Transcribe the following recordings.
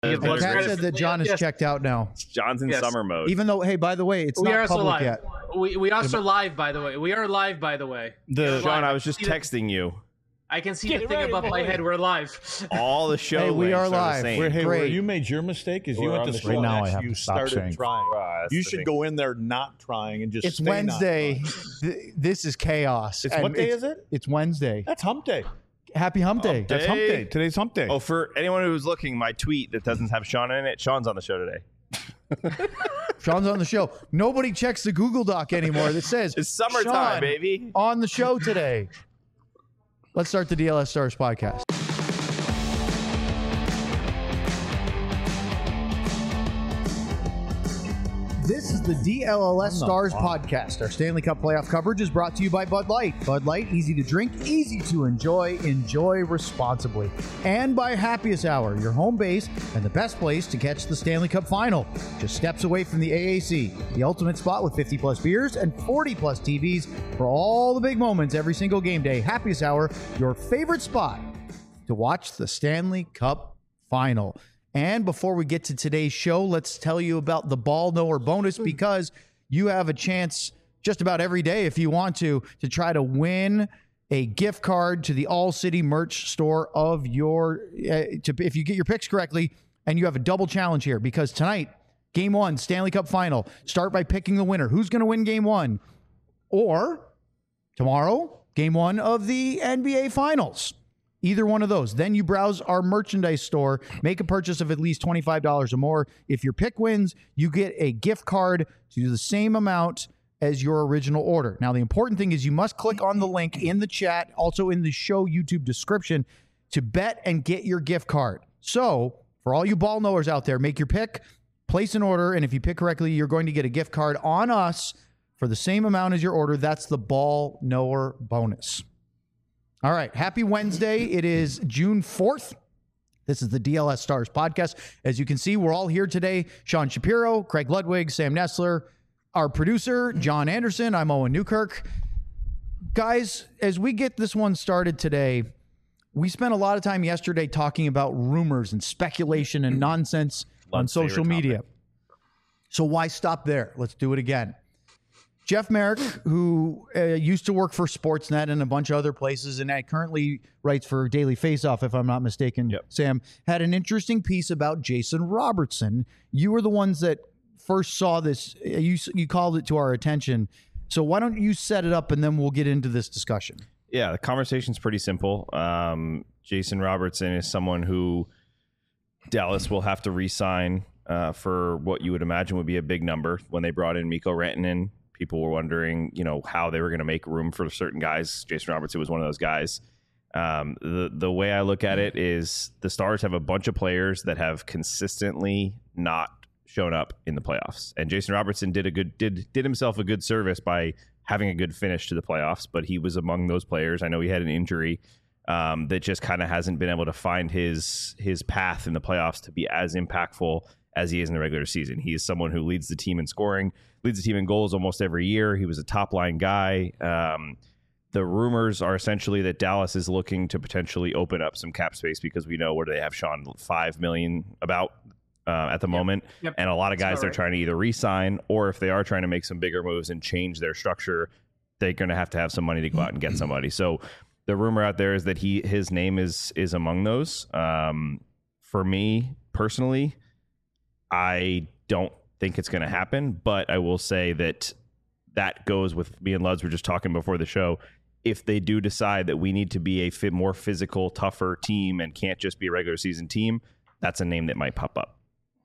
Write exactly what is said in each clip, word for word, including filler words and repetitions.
Uh, And Kat said that John is yes. checked out now. John's in Yes. summer mode. Even though, hey, by the way, it's We not are also public live. yet. We we also live, by the way. We are live, by the way. The Sean, live. I was just See the- texting you. I can see Get the thing ready, above my boy. head. We're live. All the show Hey, we links are the live. same. where, hey, where Great. you made your mistake is you We're went on to the school show. and Now I have you to stop started saying. trying. Ah, that's You the should thing. go in there not trying and just It's stay not Wednesday. trying. Th- This is chaos. It's And what day it's- is it? It's Wednesday. That's hump day. Happy Hump Day. That's hump Day. day. Today's hump day. Oh, for anyone who's looking, my tweet that doesn't have Sean in it, Sean's on the show today. Sean's on the show. Nobody checks the Google Doc anymore that says It's summertime, Sean baby. on the show today. Let's start the D L S Stars podcast. This is the D L L S Stars podcast. Our Stanley Cup playoff coverage is brought to you by Bud Light. Bud Light, easy to drink, easy to enjoy. Enjoy responsibly. And by Happiest Hour, your home base and the best place to catch the Stanley Cup final. Just steps away from the A A C, the ultimate spot with fifty plus beers and forty plus T Vs for all the big moments every single game day. Happiest Hour, your favorite spot to watch the Stanley Cup final. And before we get to today's show, let's tell you about the Ball Knower bonus, because you have a chance just about every day, if you want to, to try to win a gift card to the All City merch store of your, uh, to, if you get your picks correctly, and you have a double challenge here, because tonight, game one, Stanley Cup final, start by picking the winner. Who's going to win game one? Or tomorrow, game one of the N B A Finals. Either one of those. Then you browse our merchandise store, make a purchase of at least twenty-five dollars or more. If your pick wins, you get a gift card to the same amount as your original order. Now, the important thing is you must click on the link in the chat, also in the show YouTube description, to bet and get your gift card. So, for all you ball knowers out there, make your pick, place an order, and if you pick correctly, you're going to get a gift card on us for the same amount as your order. That's the Ball Knower bonus. All right. Happy Wednesday. It is June fourth. This is the D L S Stars podcast. As you can see, we're all here today. Sean Shapiro, Craig Ludwig, Sam Nestler, our producer, John Anderson. I'm Owen Newkirk. Guys, as we get this one started today, we spent a lot of time yesterday talking about rumors and speculation and nonsense on Love's social favorite media. topic. So why stop there? Let's do it again. Jeff Merrick, who uh, used to work for Sportsnet and a bunch of other places, and I currently writes for Daily Faceoff, if I'm not mistaken, Yep. Sam, had an interesting piece about Jason Robertson. You were the ones that first saw this. Uh, You, you called it to our attention. So why don't you set it up, and then we'll get into this discussion. Yeah, the conversation's pretty simple. Um, Jason Robertson is someone who Dallas will have to re-sign uh, for what you would imagine would be a big number. When they brought in Mikko Rantanen, people were wondering, you know, how they were going to make room for certain guys. Jason Robertson was one of those guys. Um, the the way I look at it is the Stars have a bunch of players that have consistently not shown up in the playoffs, and Jason Robertson did a good did did himself a good service by having a good finish to the playoffs. But he was among those players. I know he had an injury um, that just kind of hasn't been able to find his his path in the playoffs to be as impactful as he is in the regular season. He is someone who leads the team in scoring, leads the team in goals almost every year. He was a top line guy. Um, the rumors are essentially that Dallas is looking to potentially open up some cap space, because we know where they have Sean five million about uh, at the moment. Yep. And a lot of That's guys about they're right. trying to either re-sign, or if they are trying to make some bigger moves and change their structure, they're going to have to have some money to go out and get somebody. So the rumor out there is that he his name is is among those. Um, for me personally, I don't think it's going to happen, but I will say that that goes with me and Luds were just talking before the show. If they do decide that we need to be a fit, more physical, tougher team and can't just be a regular season team, that's a name that might pop up.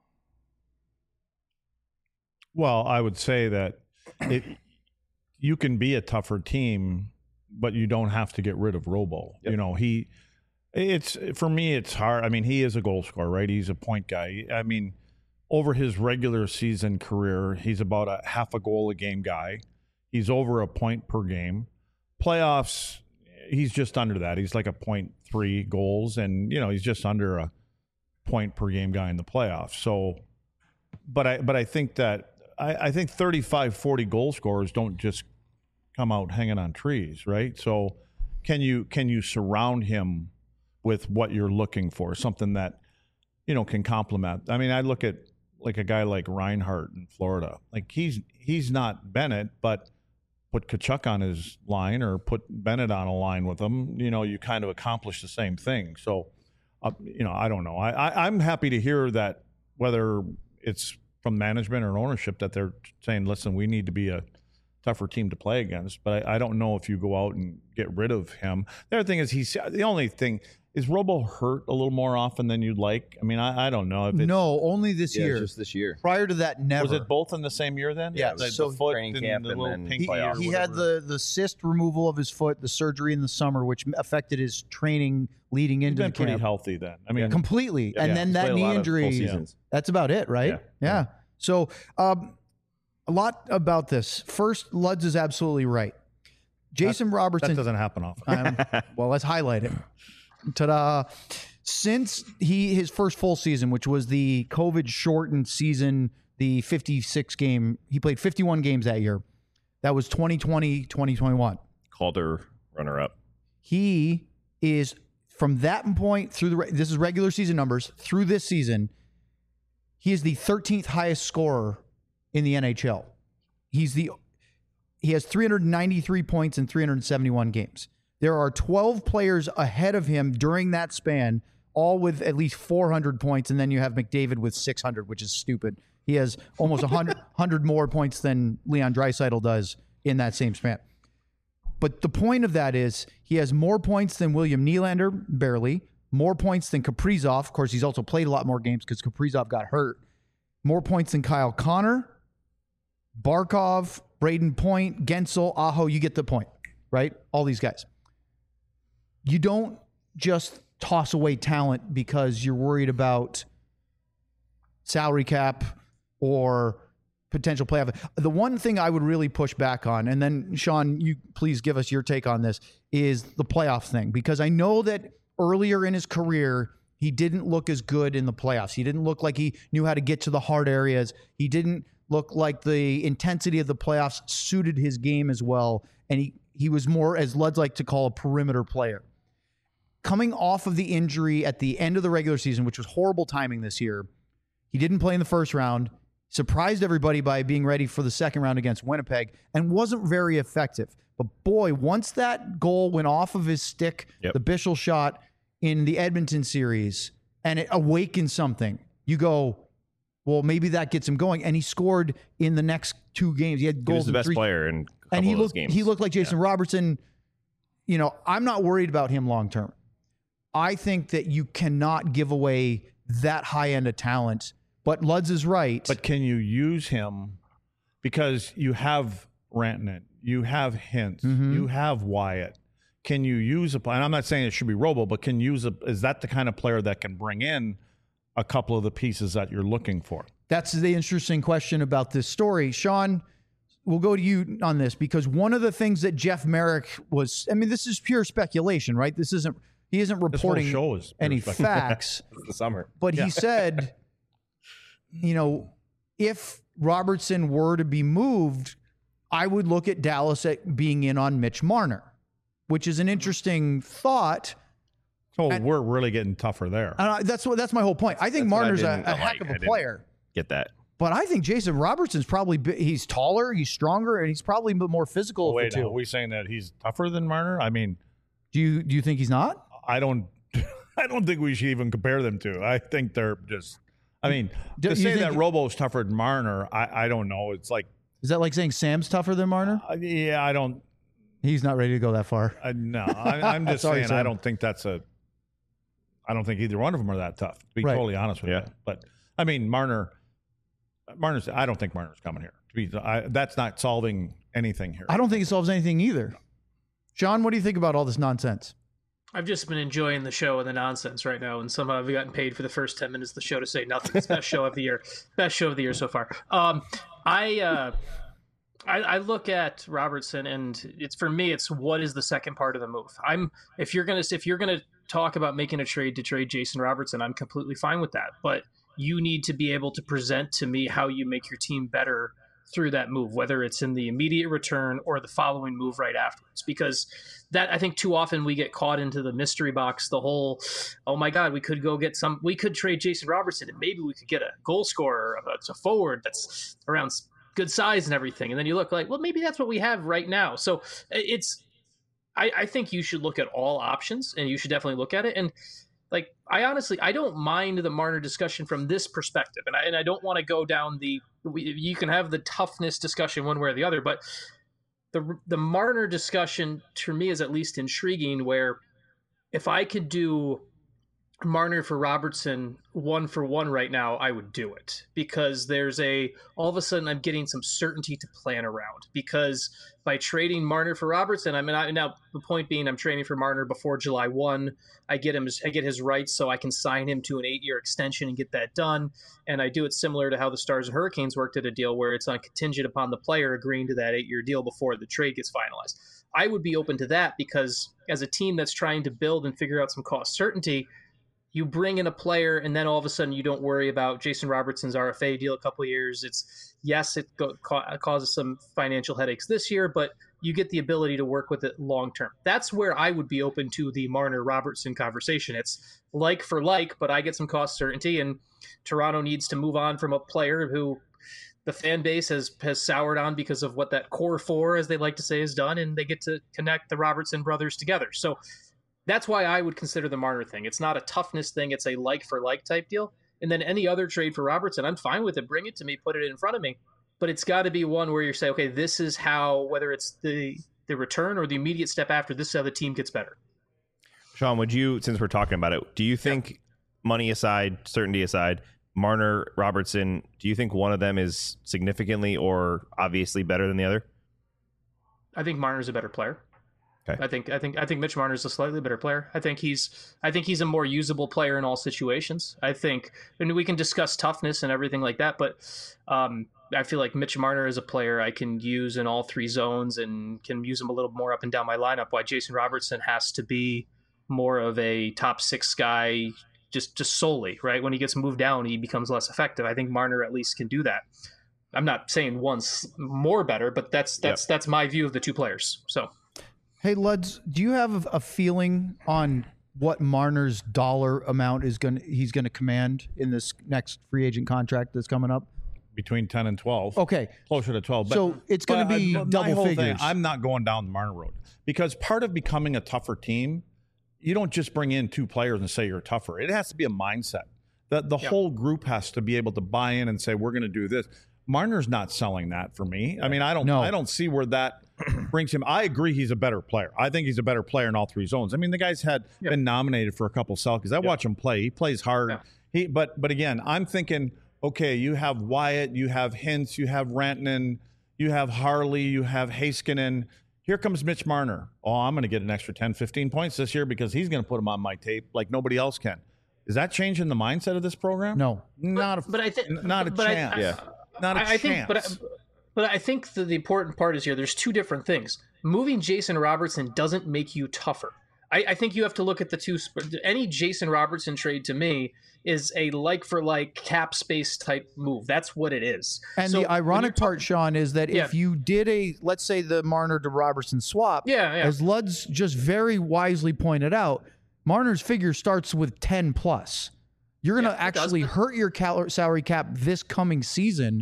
Well, I would say that it, you can be a tougher team, but you don't have to get rid of Robo. Yep. You know, he, it's, for me, it's hard. I mean, he is a goal scorer, right? He's a point guy. I mean, over his regular season career, he's about a half a goal a game guy. He's over a point per game. Playoffs, he's just under that. He's like a point three goals, and, you know, he's just under a point per game guy in the playoffs. So, but I, but I think that, I, I think thirty-five, forty goal scorers don't just come out hanging on trees, right? So can you, can you surround him with what you're looking for? Something that you know, can complement. I mean, I look at like a guy like Reinhart in Florida. Like he's he's not Bennett, but put Tkachuk on his line or put Bennett on a line with him, you know, you kind of accomplish the same thing. So, uh, you know, I don't know. I, I, I'm happy to hear that whether it's from management or ownership that they're saying, listen, we need to be a tougher team to play against. But I, I don't know if you go out and get rid of him. The other thing is he's the only thing is Robo hurt a little more often than you'd like. I mean, I, I don't know if it's, no, only this Yeah, year. just this year. Prior to that, never. was it both in the same year then? Yeah, the, so the foot training and camp the and little then pinky He, or he had whatever. the the cyst removal of his foot, the surgery in the summer, which affected his training leading He's into been the pretty camp. healthy then. I mean, completely. Yeah. and Yeah. then He's that played a knee lot of full injury. seasons. That's about it, right? Yeah. Yeah. So um, a lot about this. First, Luds is absolutely right. Jason that Robertson. doesn't happen often. Um, well, let's highlight it. Ta-da! Since he his first full season, which was the COVID shortened season, the fifty-six game, he played fifty-one games that year. That was twenty twenty, twenty twenty-one. Calder runner up. He is from that point through the this is regular season numbers through this season. He is the thirteenth highest scorer in the N H L. He's the he has three hundred ninety-three points in three hundred seventy-one games. There are twelve players ahead of him during that span, all with at least four hundred points, and then you have McDavid with six hundred, which is stupid. He has almost one hundred, one hundred more points than Leon Draisaitl does in that same span. But the point of that is he has more points than William Nylander, barely, more points than Kaprizov. Of course, he's also played a lot more games because Kaprizov got hurt. More points than Kyle Connor, Barkov, Braden Point, Gensel, Aho. You get the point, right? All these guys. You don't just toss away talent because you're worried about salary cap or potential playoff. The one thing I would really push back on, and then Sean, you please give us your take on this, is the playoff thing. Because I know that earlier in his career, he didn't look as good in the playoffs. He didn't look like he knew how to get to the hard areas. He didn't look like the intensity of the playoffs suited his game as well. And he, he was more, as Lud's like to call, a perimeter player. Coming off of the injury at the end of the regular season, which was horrible timing this year, he didn't play in the first round, surprised everybody by being ready for the second round against Winnipeg, and wasn't very effective. But boy, once that goal went off of his stick, Yep. the Bichel shot in the Edmonton series, and it awakened something, you go, well, maybe that gets him going. And he scored in the next two games. He had He goals was the in best three, player in a couple and he of those looked games. he looked like Jason Yeah. Robertson. You know, I'm not worried about him long term. I think that you cannot give away that high end of talent. But Luds is right. But can you use him because you have Rantanen, you have Hintz, Mhm. you have Wyatt. Can you use a and I'm not saying it should be Robo, but can you use a is that the kind of player that can bring in a couple of the pieces that you're looking for? That's the interesting question about this story. Sean, we'll go to you on this because one of the things that Jeff Merrick was, I mean, this is pure speculation, right? This isn't, he isn't This whole reporting show is pure any speculation. facts, It's the summer. but he said, you know, if Robertson were to be moved, I would look at Dallas at being in on Mitch Marner, which is an interesting thought. So And- we're really getting tougher there. And I, that's what that's my whole point. I think That's what I Marner's a, didn't a like. heck of I a didn't- player. Get that. But I think Jason Robertson's probably bi- he's taller, he's stronger, and he's probably more physical Oh, of wait, the now, two. are we saying that he's tougher than Marner? I mean, Do you do you think he's not? I don't I don't think we should even compare them to. I think they're just I mean, Do to you say think- that Robo's tougher than Marner, I, I don't know. It's like Is that like saying Sam's tougher than Marner? uh, yeah, I don't He's not ready to go that far. I, no, I, I'm just Sorry, saying Sam. I don't think that's a. I don't think either one of them are that tough. To be Right. totally honest with Yeah. you, but I mean Marner, Marner's. I don't think Marner's coming here. To be, I, that's not solving anything here. I don't think it solves anything either. Sean, what do you think about all this nonsense? I've just been enjoying the show and the nonsense right now, and somehow I've gotten paid for the first ten minutes of the show to say nothing. It's best show of the year, best show of the year so far. Um, I, uh, I I look at Robertson, and it's for me, it's what is the second part of the move. I'm if you're gonna if you're gonna talk about making a trade to trade Jason Robertson, I'm completely fine with that. But you need to be able to present to me how you make your team better through that move, whether it's in the immediate return or the following move right afterwards. Because that, I think too often we get caught into the mystery box, the whole, oh my God, we could go get some, we could trade Jason Robertson and maybe we could get a goal scorer, a forward that's around good size and everything. And then you look like, well, maybe that's what we have right now. So it's, I, I think you should look at all options, and you should definitely look at it. And like, I honestly, I don't mind the Marner discussion from this perspective. And I, and I don't want to go down the, you can have the toughness discussion one way or the other, but the, the Marner discussion to me is at least intriguing, where if I could do Marner for Robertson one for one right now, I would do it, because there's a, all of a sudden I'm getting some certainty to plan around, because by trading Marner for Robertson, I mean, I, now the point being, I'm trading for Marner before July first. I get him, I get his rights so I can sign him to an eight year extension and get that done. And I do it similar to how the Stars and Hurricanes worked at a deal where it's on contingent upon the player agreeing to that eight year deal before the trade gets finalized. I would be open to that, because as a team that's trying to build and figure out some cost certainty, you bring in a player and then all of a sudden you don't worry about Jason Robertson's R F A deal a couple of years. It's, yes, it go, ca- causes some financial headaches this year, but you get the ability to work with it long term. That's where I would be open to the Marner Robertson conversation. It's like for like, but I get some cost certainty, and Toronto needs to move on from a player who the fan base has, has soured on because of what that core four, as they like to say, has done, and they get to connect the Robertson brothers together. So that's why I would consider the Marner thing. It's not a toughness thing. It's a like-for-like type deal. And then any other trade for Robertson, I'm fine with it. Bring it to me. Put it in front of me. But it's got to be one where you say, okay, this is how, whether it's the, the return or the immediate step after, this is how the team gets better. Sean, would you, since we're talking about it, do you think, yeah. money aside, certainty aside, Marner, Robertson, do you think one of them is significantly or obviously better than the other? I think Marner's a better player. Okay. I think I think I think Mitch Marner is a slightly better player. I think he's I think he's a more usable player in all situations. I think, and we can discuss toughness and everything like that, but um, I feel like Mitch Marner is a player I can use in all three zones and can use him a little more up and down my lineup. Why Jason Robertson has to be more of a top six guy, just just solely, right? When he gets moved down, he becomes less effective. I think Marner at least can do that. I'm not saying one's more better, but that's that's yep. that's my view of the two players. So. Hey, Luds, do you have a feeling on what Marner's dollar amount is going he's going to command in this next free agent contract that's coming up? Between ten and twelve. Okay. Closer to twelve. But, so it's going to be I, double figures. Thing, I'm not going down the Marner road, because part of becoming a tougher team, you don't just bring in two players and say you're tougher. It has to be a mindset. The, the yep. whole group has to be able to buy in and say, we're going to do this. Marner's not selling that for me. I mean, I don't, no. I don't see where that brings him. I agree he's a better player. I think he's a better player in all three zones. I mean, the guy's had yep. been nominated for a couple Selkes. I yep. watch him play. He plays hard. Yeah. He, but but again, I'm thinking, okay, you have Wyatt, you have Hintz, you have Rantanen, you have Harley, you have Heiskanen. Here comes Mitch Marner. Oh, I'm going to get an extra ten, fifteen points this year because he's going to put them on my tape like nobody else can. Is that changing the mindset of this program? No. Not but, a, but I think, not a but chance. I, I, yeah. Not a I, chance. I think, but I, but I think the, the important part is here. There's two different things. Moving Jason Robertson doesn't make you tougher. I, I think you have to look at the two. Any Jason Robertson trade to me is a like for like cap space type move. That's what it is. And so the ironic part, Sean, is that yeah. if you did a, let's say the Marner to Robertson swap, yeah, yeah. as Luds just very wisely pointed out, Marner's figure starts with ten plus. You're going to yeah, actually hurt your cal- salary cap this coming season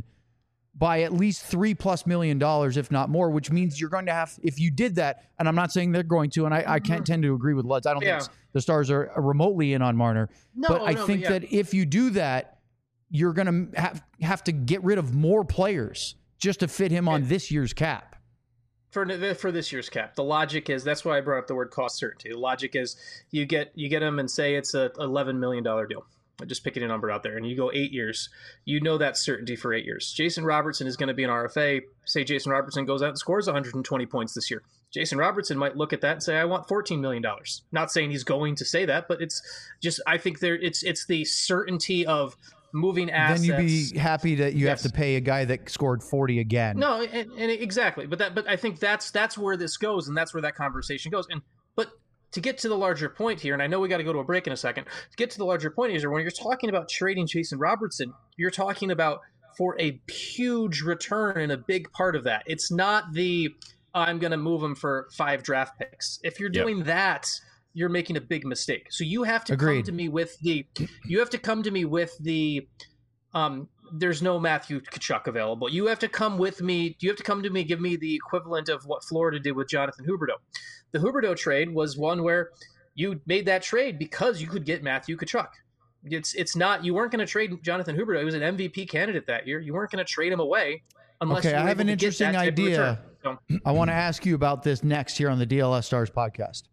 by at least three plus million dollars, if not more, which means you're going to have, if you did that, and I'm not saying they're going to, and I, I can't tend to agree with Luds. I don't yeah. think the Stars are remotely in on Marner. No, but I no, think but yeah. that if you do that, you're going to have, have to get rid of more players just to fit him on yeah. this year's cap. For, for this year's cap, the logic is, that's why I brought up the word cost certainty. The logic is you get you get him and say it's a eleven million dollars deal. Just picking a number out there, and you go eight years, you know that certainty for eight years. Jason Robertson is going to be an R F A. Say Jason Robertson goes out and scores one hundred twenty points this year. Jason Robertson might look at that and say, I want fourteen million dollars. Not saying he's going to say that, but it's just, I think there it's it's the certainty of moving assets. Then you'd be happy that you yes. have to pay a guy that scored forty again. No, and, and exactly. But that, but I think that's that's where this goes, and that's where that conversation goes. And but to get to the larger point here, and I know we got to go to a break in a second, to get to the larger point is when you're talking about trading Jason Robertson, you're talking about for a huge return and a big part of that. It's not the I'm going to move him for five draft picks. If you're doing yep. that, you're making a big mistake. So you have to Agreed. come to me with the you have to come to me with the um there's no Matthew Tkachuk available. You have to come with me. You have to come to me, give me the equivalent of what Florida did with Jonathan Huberdeau. The Huberdeau trade was one where you made that trade because you could get Matthew Tkachuk. It's it's not you weren't going to trade Jonathan Huberdeau. He was an M V P candidate that year. You weren't going to trade him away unless okay, you were I have able an to interesting get that idea. So, I want to ask you about this next here on the D L S Stars podcast.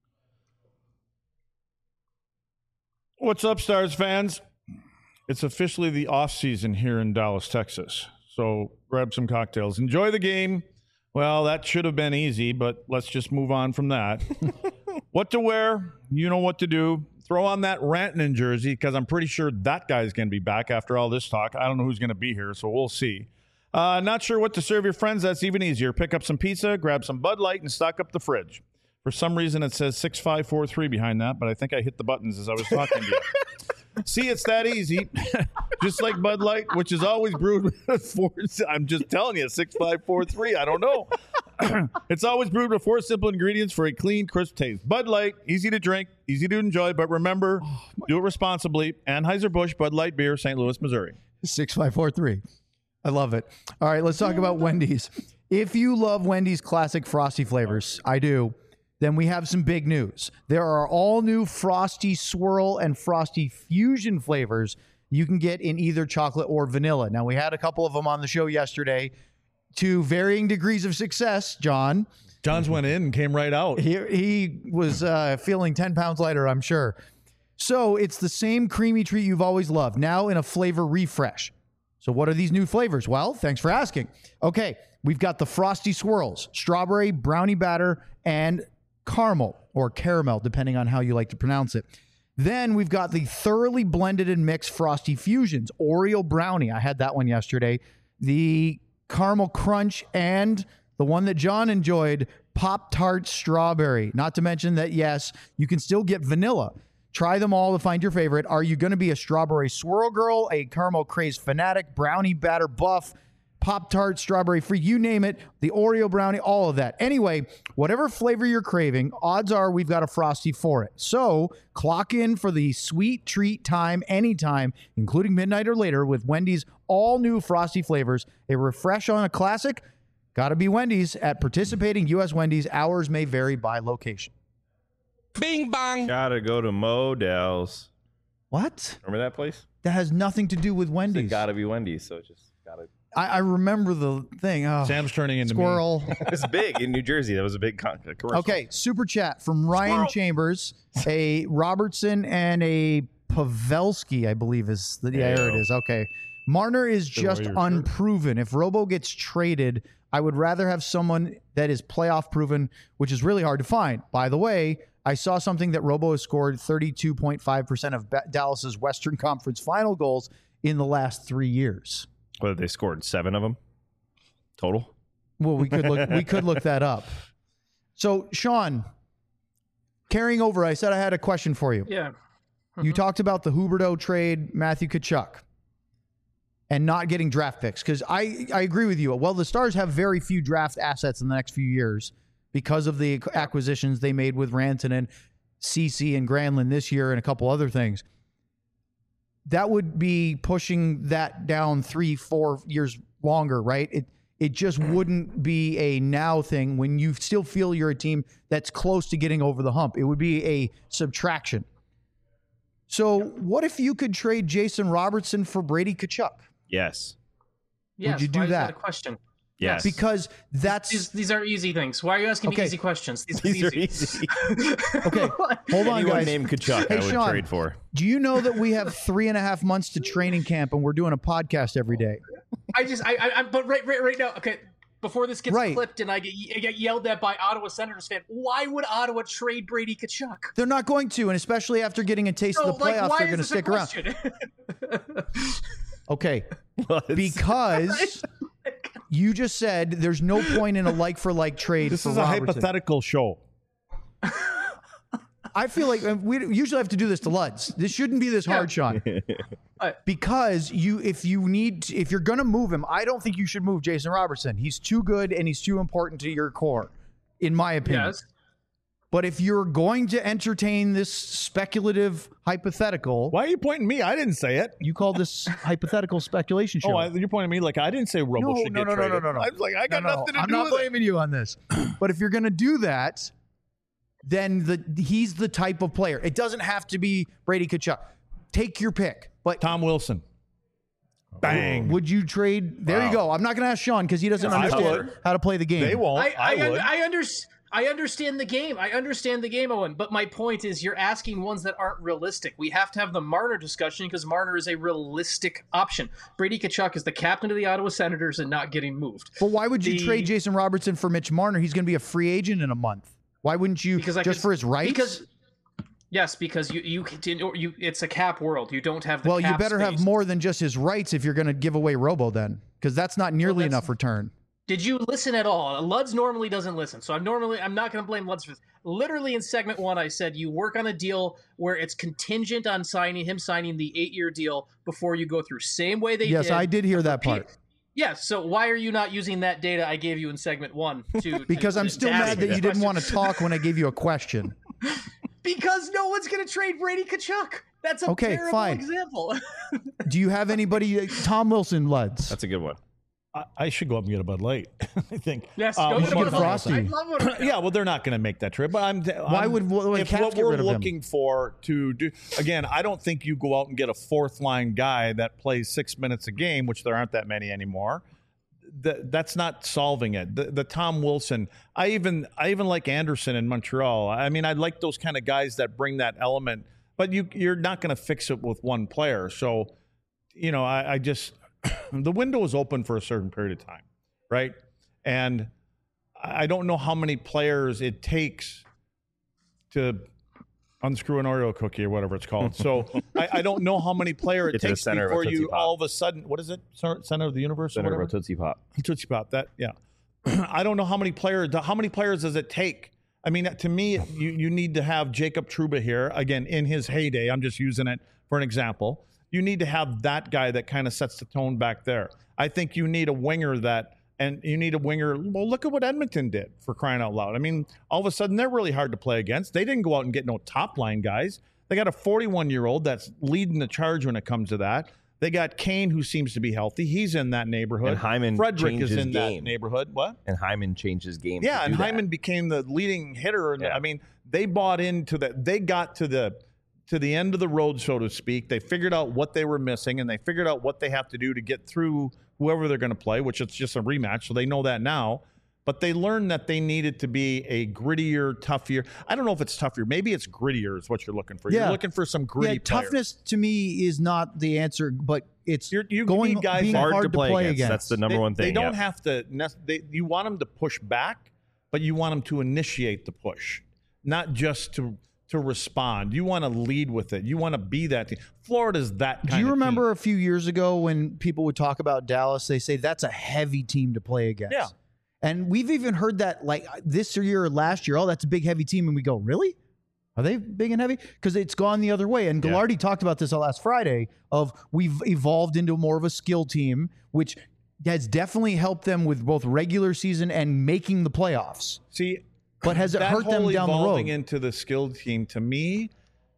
What's up, Stars fans? It's officially the off season here in Dallas, Texas. So grab some cocktails. Enjoy the game. Well, that should have been easy, but let's just move on from that. What to wear? You know what to do. Throw on that Rantanen jersey because I'm pretty sure that guy's going to be back after all this talk. I don't know who's going to be here, so we'll see. Uh, not sure what to serve your friends? That's even easier. Pick up some pizza, grab some Bud Light, and stock up the fridge. For some reason, it says six five four three behind that, but I think I hit the buttons as I was talking to you. See, it's that easy. Just like Bud Light, which is always brewed with four. I'm just telling you, six five four three. I don't know. It's always brewed with four simple ingredients for a clean, crisp taste. Bud Light, easy to drink, easy to enjoy, but remember, oh, do it responsibly. Anheuser-Busch Bud Light Beer, Saint Louis, Missouri. six five four three. I love it. All right, let's talk about Wendy's. If you love Wendy's classic Frosty flavors, I do, then we have some big news. There are all new Frosty Swirl and Frosty Fusion flavors you can get in either chocolate or vanilla. Now, we had a couple of them on the show yesterday to varying degrees of success, John. John's went in and came right out. He, he was uh, feeling ten pounds lighter, I'm sure. So it's the same creamy treat you've always loved, now in a flavor refresh. So what are these new flavors? Well, thanks for asking. Okay, we've got the Frosty Swirls, strawberry, brownie batter, and caramel or caramel, depending on how you like to pronounce it. Then we've got the thoroughly blended and mixed Frosty Fusions, Oreo brownie. I had that one yesterday. The caramel crunch and the one that John enjoyed, Pop-Tart strawberry. Not to mention that, yes, you can still get vanilla. Try them all to find your favorite. Are you going to be a strawberry swirl girl, a caramel craze fanatic, brownie batter buff, Pop-Tart, strawberry free, you name it, the Oreo brownie, all of that. Anyway, whatever flavor you're craving, odds are we've got a Frosty for it. So clock in for the sweet treat time anytime, including midnight or later, with Wendy's all new Frosty flavors. A refresh on a classic, gotta be Wendy's. At participating U S Wendy's, hours may vary by location. Bing bong. Gotta go to Modell's. What? Remember that place? That has nothing to do with Wendy's. It gotta be Wendy's, so just gotta... I, I remember the thing. Oh, Sam's turning into squirrel. Me. It's big in New Jersey. That was a big con- commercial. Okay, super chat from Ryan squirrel. Chambers, a Robertson and a Pavelski, I believe is the yeah, there it is. Okay, Marner is just unproven. Shirt. If Robo gets traded, I would rather have someone that is playoff proven, which is really hard to find. By the way, I saw something that Robo has scored thirty-two point five percent of Dallas's Western Conference final goals in the last three years. Whether they scored seven of them total. Well, we could look. we could look that up. So, Sean, carrying over, I said I had a question for you. Yeah. Mm-hmm. You talked about the Huberdeau trade, Matthew Tkachuk, and not getting draft picks. Because I, I agree with you. Well, the Stars have very few draft assets in the next few years because of the acquisitions they made with Rantanen, Ceci, and Granlund this year, and a couple other things. That would be pushing that down three, four years longer, right? It it just wouldn't be a now thing when you still feel you're a team that's close to getting over the hump. It would be a subtraction. So what if you could trade Jason Robertson for Brady Tkachuk? Yes. Yes. Would you do Why that? Is that a question? Yes. Because that's... These, these are easy things. Why are you asking okay. me easy questions? These, these are easy. easy. Okay, hold on, Anyone guys. named Tkachuk, hey, I would Sean, trade for. Do you know that we have three and a half months to training camp and we're doing a podcast every day? I just, I, I, I but right, right, right now, okay, before this gets right. clipped and I get, I get yelled at by Ottawa Senators fan, why would Ottawa trade Brady Tkachuk? They're not going to, and especially after getting a taste so, of the playoffs, like, they're going to stick around. Okay, because you just said there's no point in a like-for-like trade This for is Robertson. a hypothetical show. I feel like we usually have to do this to Luds. This shouldn't be this hard, Sean. Because you, if you need, to, if you're going to move him, I don't think you should move Jason Robertson. He's too good and he's too important to your core, in my opinion. Yes. But if you're going to entertain this speculative hypothetical, why are you pointing at me? I didn't say it. You called this hypothetical speculation show. Oh, I, you're pointing at me like I didn't say Robo no, should no, get no, traded. No, no, no, no. I was like, I got no, no, nothing to I'm do with it. I'm not blaming you on this. But if you're going to do that, then the he's the type of player. It doesn't have to be Brady Tkachuk. Take your pick. But Tom Wilson. Bang. Would you trade? There wow. you go. I'm not going to ask Sean because he doesn't understand how to play the game. They won't. I, I, I would. I, I understand. I understand the game. I understand the game, Owen. But my point is you're asking ones that aren't realistic. We have to have the Marner discussion because Marner is a realistic option. Brady Tkachuk is the captain of the Ottawa Senators and not getting moved. But why would you the, trade Jason Robertson for Mitch Marner? He's going to be a free agent in a month. Why wouldn't you because I just could, for his rights? Because yes, because you you you it's a cap world. You don't have the well, cap you better space. have more than just his rights if you're going to give away Robo then, because that's not nearly well, that's, enough return. Did you listen at all? Luds normally doesn't listen, so I'm normally I'm not going to blame Luds for this. Literally in segment one, I said you work on a deal where it's contingent on signing him signing the eight-year deal before you go through. Same way they yes, did. Yes, I did hear that part. Yes, so why are you not using that data I gave you in segment one? To because to, I'm to, still to mad that you didn't want to talk when I gave you a question. Because no one's going to trade Brady Tkachuk. That's a okay, terrible fine. example. Do you have anybody? Tom Wilson, Luds. That's a good one. I, I should go up and get a Bud Light. I think. Yes, um, go get a Bud Frosty. Light. I love it. Yeah, well, they're not going to make that trip. But I'm. Why I'm, would what, if what we're looking for to do again? I don't think you go out and get a fourth line guy that plays six minutes a game, which there aren't that many anymore. The, that's not solving it. The, the Tom Wilson, I even I even like Anderson in Montreal. I mean, I like those kind of guys that bring that element, but you you're not going to fix it with one player. So, you know, I, I just the window is open for a certain period of time, right? And I don't know how many players it takes to unscrew an Oreo cookie or whatever it's called. So I, I don't know how many players it takes before you all of a sudden, what is it? Center of the universe? Center or of a Tootsie Pop. Tootsie Pop. That yeah. I don't know how many players. How many players does it take? I mean, to me, you you need to have Jacob Trouba here again in his heyday. I'm just using it for an example. You need to have that guy that kind of sets the tone back there. I think you need a winger that. And you need a winger. Well, look at what Edmonton did, for crying out loud. I mean, all of a sudden, they're really hard to play against. They didn't go out and get no top-line guys. They got a forty-one-year-old that's leading the charge when it comes to that. They got Kane, who seems to be healthy. He's in that neighborhood. And Hyman Frederick is in game. that neighborhood. What? And Hyman changed his game. Yeah, and that. Hyman became the leading hitter. And yeah. I mean, they bought into that. They got to the to the end of the road, so to speak. They figured out what they were missing, and they figured out what they have to do to get through whoever they're going to play, which it's just a rematch, so they know that now. But they learned that they needed to be a grittier, tougher. I don't know if it's tougher. Maybe it's grittier is what you're looking for. Yeah. You're looking for some gritty yeah, toughness players. To me is not the answer, but it's you're, you going need guys being hard, hard to play, play against. against. That's the number they, one thing. They don't yeah. have to. They, you want them to push back, but you want them to initiate the push, not just to to respond. You want to lead with it. You want to be that team. Florida's that kind of Do you remember team. a few years ago when people would talk about Dallas, they say that's a heavy team to play against. Yeah. And we've even heard that like this year or last year, oh, that's a big, heavy team. And we go, really? Are they big and heavy? Because it's gone the other way. And Ghilardi yeah. talked about this last Friday of we've evolved into more of a skill team, which has definitely helped them with both regular season and making the playoffs. See, but has it that hurt them whole down the road? Evolving into the skilled team, to me,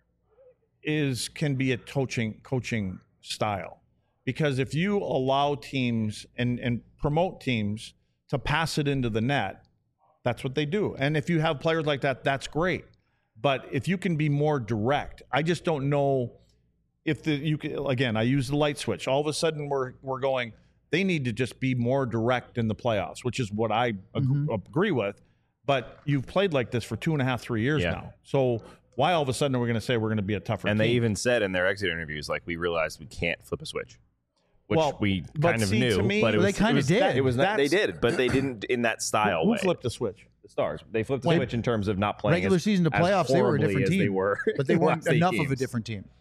is can be a coaching coaching style. Because if you allow teams and, and promote teams to pass it into the net, that's what they do. And if you have players like that, that's great. But if you can be more direct, I just don't know if the you can, again, I use the light switch. All of a sudden we're we're going, they need to just be more direct in the playoffs, which is what I mm-hmm. ag- agree with. But you've played like this for two and a half, three years yeah. now. So why all of a sudden are we going to say we're going to be a tougher and team? They even said in their exit interviews, like, we realized we can't flip a switch, which well, we kind of see, knew. Me, but it well, was, they kind of did. That, it was not, they did, but they didn't in that style who, who way. Who flipped the switch? The Stars. They flipped the Wait, switch in terms of not playing regular as, season to playoffs. They were a different team, they were but they weren't enough games. of a different team.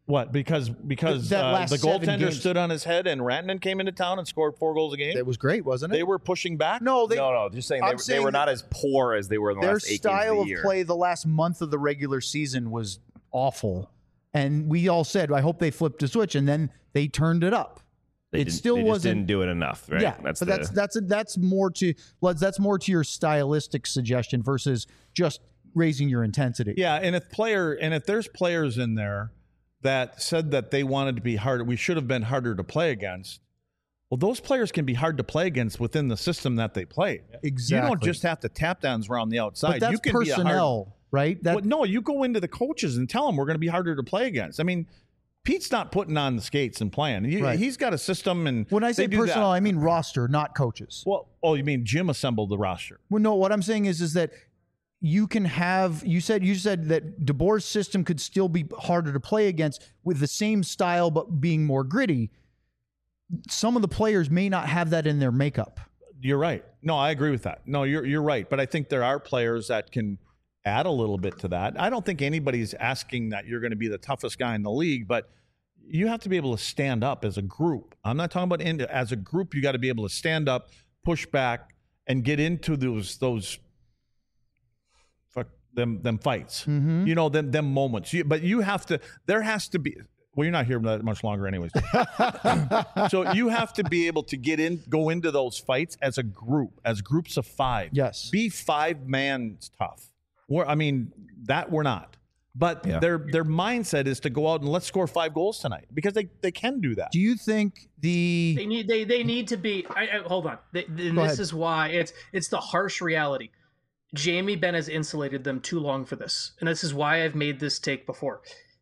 What? Because because That uh, last the seven goaltender games- stood on his head and Rantanen came into town and scored four goals a game. It was great, wasn't it? They were pushing back. no, they, no, no, just saying they, I'm they saying were that not as poor as they were in the their last eight style games of of the year. play the last month of the regular season was awful. And we all said, I hope they flipped a switch, and then they turned it up. They it didn't- still they just wasn't didn't do it enough, right? Yeah, that's but the, that's that's a, that's more to let's that's more to your stylistic suggestion versus just raising your intensity. Yeah, and if player and if there's players in there that said that they wanted to be harder, we should have been harder to play against. Well, those players can be hard to play against within the system that they play. Exactly. You don't just have to tap downs around the outside. But that's you can personnel, be a hard, right? That well, no, you go into the coaches and tell them we're going to be harder to play against. I mean, Pete's not putting on the skates and playing. He, Right. He's got a system, and when I say they do personnel, that. I mean roster, not coaches. Well, oh, you mean Jim assembled the roster? Well, no, what I'm saying is is that you can have you said you said that DeBoer's system could still be harder to play against with the same style but being more gritty. Some of the players may not have that in their makeup. You're right. No, I agree with that. No, you're you're right. But I think there are players that can add a little bit to that. I don't think anybody's asking that you're going to be the toughest guy in the league, but you have to be able to stand up as a group. I'm not talking about in, as a group. You got to be able to stand up, push back, and get into those those fuck them them fights. Mm-hmm. You know them them moments. You, but you have to. There has to be. Well, you're not here that much longer, anyways. So you have to be able to get in, go into those fights as a group, as groups of five. Yes. Be five man tough. We're, I mean, that we're not. But Yeah. their their mindset is to go out and let's score five goals tonight because they, they can do that. Do you think the They need they they need to be. I, I, hold on. They, and Go this ahead. is why it's it's the harsh reality. Jamie Benn has insulated them too long for this, and this is why I've made this take before.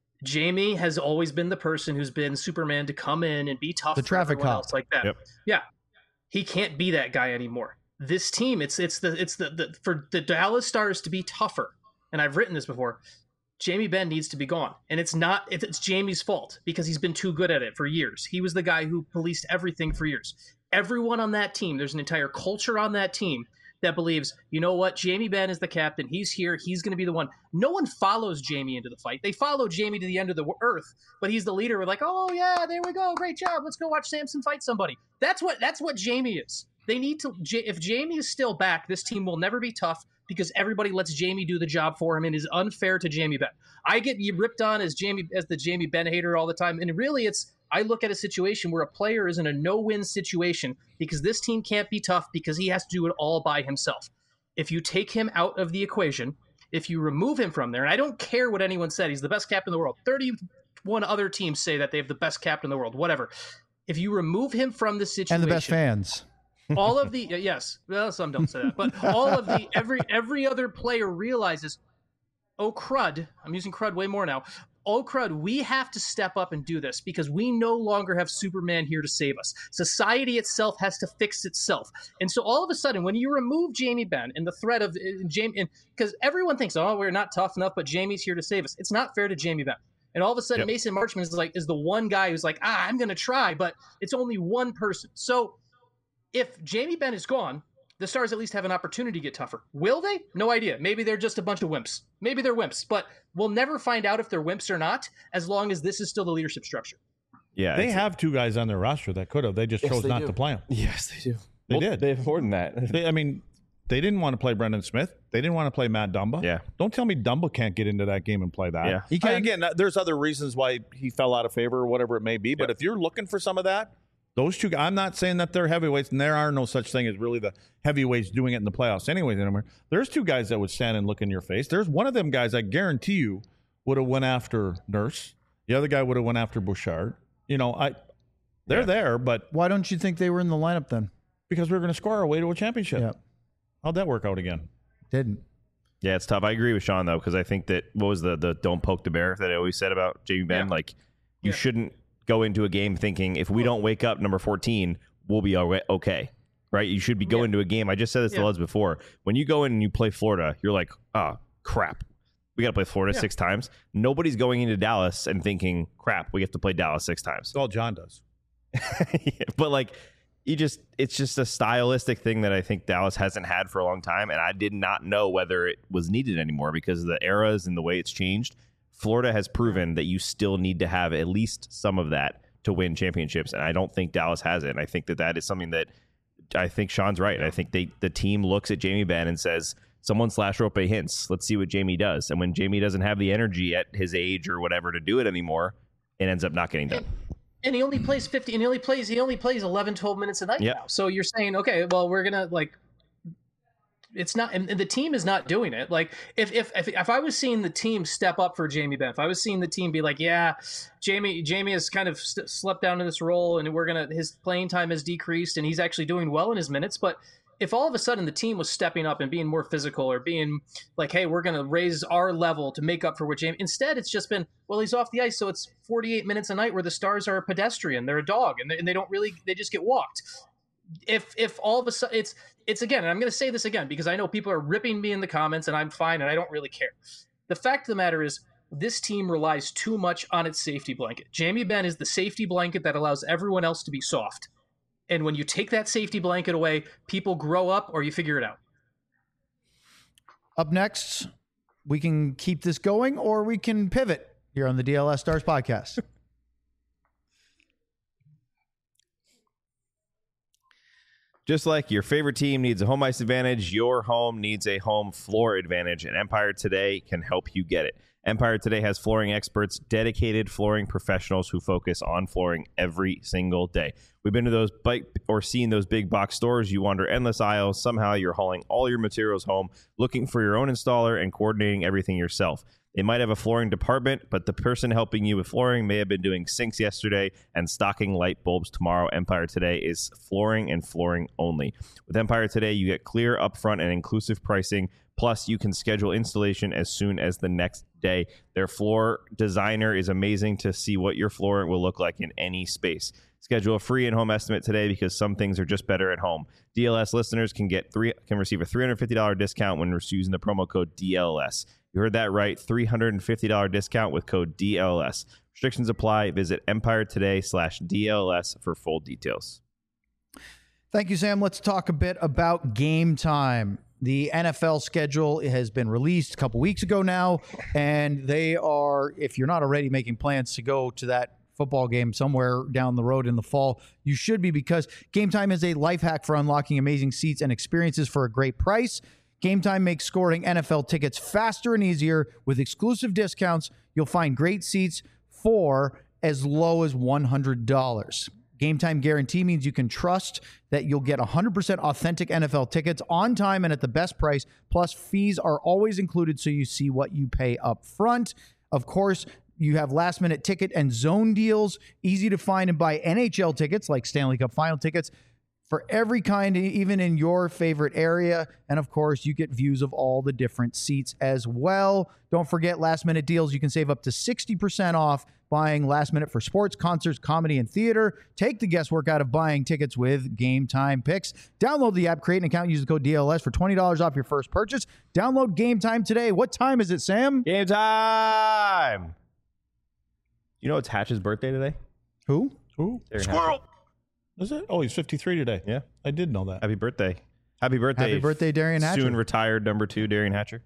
Jamie has always been the person who's been Superman to come in and be tough The for traffic everyone cop. else like that. Yep. Yeah, he can't be that guy anymore. This team, it's it's the it's the, the for the Dallas Stars to be tougher. And I've written this before. Jamie Benn needs to be gone, and it's not it's, it's Jamie's fault because he's been too good at it for years. He was the guy who policed everything for years. Everyone on that team, there's an entire culture on that team that believes, you know what, Jamie Benn is the captain. He's here. He's going to be the one. No one follows Jamie into the fight. They follow Jamie to the end of the earth, but he's the leader. We're like, oh yeah, there we go, great job. Let's go watch Samson fight somebody. That's what that's what Jamie is. They need to. If Jamie is still back, this team will never be tough because everybody lets Jamie do the job for him and is unfair to Jamie Benn. I get ripped on as Jamie as the Jamie Benn hater all the time, and really, it's I look at a situation where a player is in a no-win situation because this team can't be tough because he has to do it all by himself. If you take him out of the equation, if you remove him from there, and I don't care what anyone said, he's the best captain in the world. thirty-one other teams say that they have the best captain in the world, whatever. If you remove him from the situation, and the best fans? all of the yes, well, some don't say that, but all of the every every other player realizes, oh crud, I'm using crud way more now. Oh crud, we have to step up and do this because we no longer have Superman here to save us. Society itself has to fix itself, and so all of a sudden, when you remove Jamie Benn and the threat of uh, Jamie, because everyone thinks, oh, we're not tough enough, but Jamie's here to save us. It's not fair to Jamie Benn. And all of a sudden, Yep. Mason Marchman is like is the one guy who's like, ah, I'm going to try, but it's only one person. So if Jamie Benn is gone, the Stars at least have an opportunity to get tougher. Will they? No idea. Maybe they're just a bunch of wimps. Maybe they're wimps, but we'll never find out if they're wimps or not as long as this is still the leadership structure. Yeah, They it's- have two guys on their roster that could have. They just Yes, chose they not do. to play them. Yes, they do. They Well, did. They have more than that. They, I mean, they didn't want to play Brendan Smith. They didn't want to play Matt Dumba. Yeah. Don't tell me Dumba can't get into that game and play that. Yeah. He can. I- again, there's other reasons why he fell out of favor or whatever it may be. But Yeah. if you're looking for some of that, those two, I'm not saying that they're heavyweights, and there are no such thing as really the heavyweights doing it in the playoffs anyways anymore. There's two guys that would stand and look in your face. There's one of them guys I guarantee you would have went after Nurse. The other guy would have went after Bouchard. You know, I they're Yeah. there, but Why don't you think they were in the lineup then? because we're going to score our way to a championship. Yeah, How'd that work out again? didn't. Yeah, it's tough. I agree with Sean though, because I think that what was the the don't poke the bear that I always said about Jamie Benn? Yeah. Like you Yeah. shouldn't go into a game thinking if we don't wake up number fourteen, we'll be all right, okay. Right? You should be going Yeah. into a game. I just said this to Yeah. Luz before. When you go in and you play Florida, you're like, oh crap. We got to play Florida Yeah. six times. Nobody's going into Dallas and thinking, crap, we have to play Dallas six times. All John does. Yeah, but like you just it's just a stylistic thing that I think Dallas hasn't had for a long time, and I did not know whether it was needed anymore because of the eras and the way it's changed Florida has proven that you still need to have at least some of that to win championships, and I don't think Dallas has it. And I think that that is something that I think Sean's right. I think they the team looks at Jamie Benn and says, someone slash Rope Hintz. Let's see what Jamie does. And when Jamie doesn't have the energy at his age or whatever to do it anymore, it ends up not getting done. And he only plays fifty, and he only plays he only plays eleven, twelve minutes a night yep. now. So you're saying, okay, well, we're gonna like, it's not, and the team is not doing it. Like if if if, if I was seeing the team step up for Jamie Benn, if I was seeing the team be like, yeah, Jamie Jamie has kind of st- slept down in this role, and we're gonna his playing time has decreased, and he's actually doing well in his minutes, but if all of a sudden the team was stepping up and being more physical or being like, hey, we're going to raise our level to make up for what Jamie, instead it's just been, well, he's off the ice. So it's forty-eight minutes a night where the Stars are a pedestrian. They're a dog and they, and they don't really, they just get walked. If, if all of a sudden it's, it's again, and I'm going to say this again, because I know people are ripping me in the comments and I'm fine. And I don't really care. The fact of the matter is this team relies too much on its safety blanket. Jamie Benn is the safety blanket that allows everyone else to be soft. And when you take that safety blanket away, people grow up or you figure it out. Up next, we can keep this going or we can pivot here on the D L S Stars podcast. Just like your favorite team needs a home ice advantage, your home needs a home floor advantage, and Empire Today can help you get it. Empire Today has flooring experts, dedicated flooring professionals who focus on flooring every single day. We've been to those bike or seen those big box stores. You wander endless aisles. Somehow you're hauling all your materials home, looking for your own installer and coordinating everything yourself. They might have a flooring department, but the person helping you with flooring may have been doing sinks yesterday and stocking light bulbs tomorrow. Empire Today is flooring and flooring only. With Empire Today, you get clear, upfront, and inclusive pricing. Plus, you can schedule installation as soon as the next day. Their floor designer is amazing to see what your floor will look like in any space. Schedule a free in-home estimate today because some things are just better at home. D L S listeners can get three can receive a three hundred fifty dollars discount when using the promo code D L S. You heard that right, three hundred fifty dollars discount with code D L S. Restrictions apply. Visit Empire Today slash D L S for full details. Thank you, Sam. Let's talk a bit about Game Time. The N F L schedule has been released a couple weeks ago now, and they are, if you're not already making plans to go to that football game somewhere down the road in the fall, you should be, because Game Time is a life hack for unlocking amazing seats and experiences for a great price. Game Time makes scoring N F L tickets faster and easier with exclusive discounts. You'll find great seats for as low as one hundred dollars. Game Time guarantee means you can trust that you'll get one hundred percent authentic N F L tickets on time and at the best price. Plus, fees are always included, so you see what you pay up front. Of course, you have last-minute ticket and zone deals, easy to find and buy N H L tickets like Stanley Cup Final tickets for every kind, even in your favorite area. And of course, you get views of all the different seats as well. Don't forget last-minute deals. You can save up to sixty percent off buying last minute for sports, concerts, comedy, and theater. Take the guesswork out of buying tickets with Game Time Picks. Download the app, create an account, use the code D L S for twenty dollars off your first purchase. Download Game Time today. What time is it, Sam? Game time! You know it's Hatch's birthday today? Who? Who? Squirrel! Is it? Oh, he's fifty-three today. Yeah. I did know that. Happy birthday. Happy birthday. Happy birthday, Darian Hatcher. Soon retired number two, Darian Hatcher.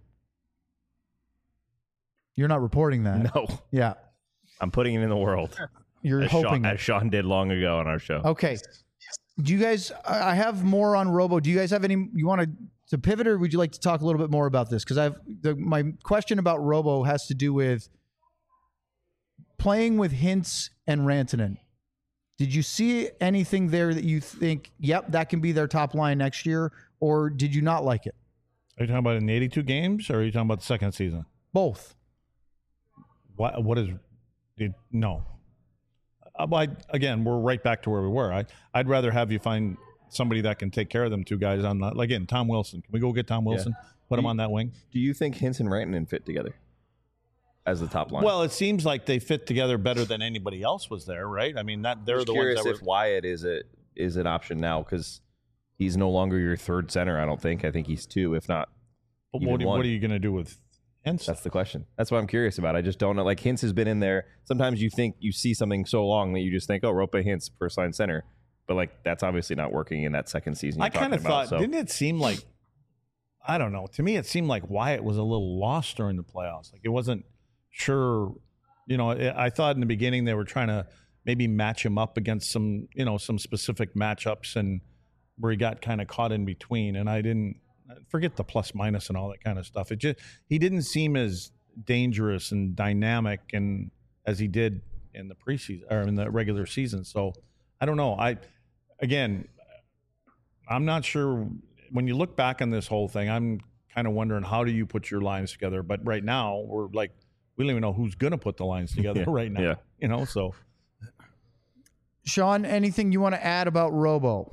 You're not reporting that. No. Yeah. I'm putting it in the world. You're as hoping Sean, that. as Sean did long ago on our show. Okay. Do you guys, I have more on Robo. Do you guys have any, you want to, to pivot, or would you like to talk a little bit more about this? Because I've, the, my question about Robo has to do with playing with Hintz and Rantanen. Did you see anything there that you think, yep, that can be their top line next year, or did you not like it? Are you talking about in the eighty-two games, or are you talking about the second season? Both. What? What is? Did, no. Uh, I, again, we're right back to where we were. I, I'd rather have you find somebody that can take care of them two guys on that. Again, Tom Wilson. Can we go get Tom Wilson? Yeah. Put do him you, on that wing. Do you think Hintz and Rantanen fit together as the top line? Well, it seems like they fit together better than anybody else was there, right? I mean, that they're I'm the curious ones that if were. Wyatt is a is an option now, because he's no longer your third center. I don't think. I think he's two, if not. But even what, one. what are you going to do with Hintz? That's the question. That's what I'm curious about. I just don't know. Like, Hintz has been in there. Sometimes you think you see something so long that you just think, oh, Rope Hintz, first line center. But, like, that's obviously not working in that second season. I kind of thought, so. didn't it seem like, I don't know. To me, it seemed like Wyatt was a little lost during the playoffs. Like, it wasn't sure. You know, I I thought in the beginning they were trying to maybe match him up against some, you know, some specific matchups, and where he got kind of caught in between. And I didn't forget the plus minus and all that kind of stuff. It just he didn't seem as dangerous and dynamic and as he did in the preseason or in the regular season. So I don't know. I again, I'm not sure. When you look back on this whole thing, I'm kind of wondering, how do you put your lines together? But right now, we're like, we don't even know who's going to put the lines together yeah, right now. Yeah. You know, so. Sean, anything you want to add about Robo?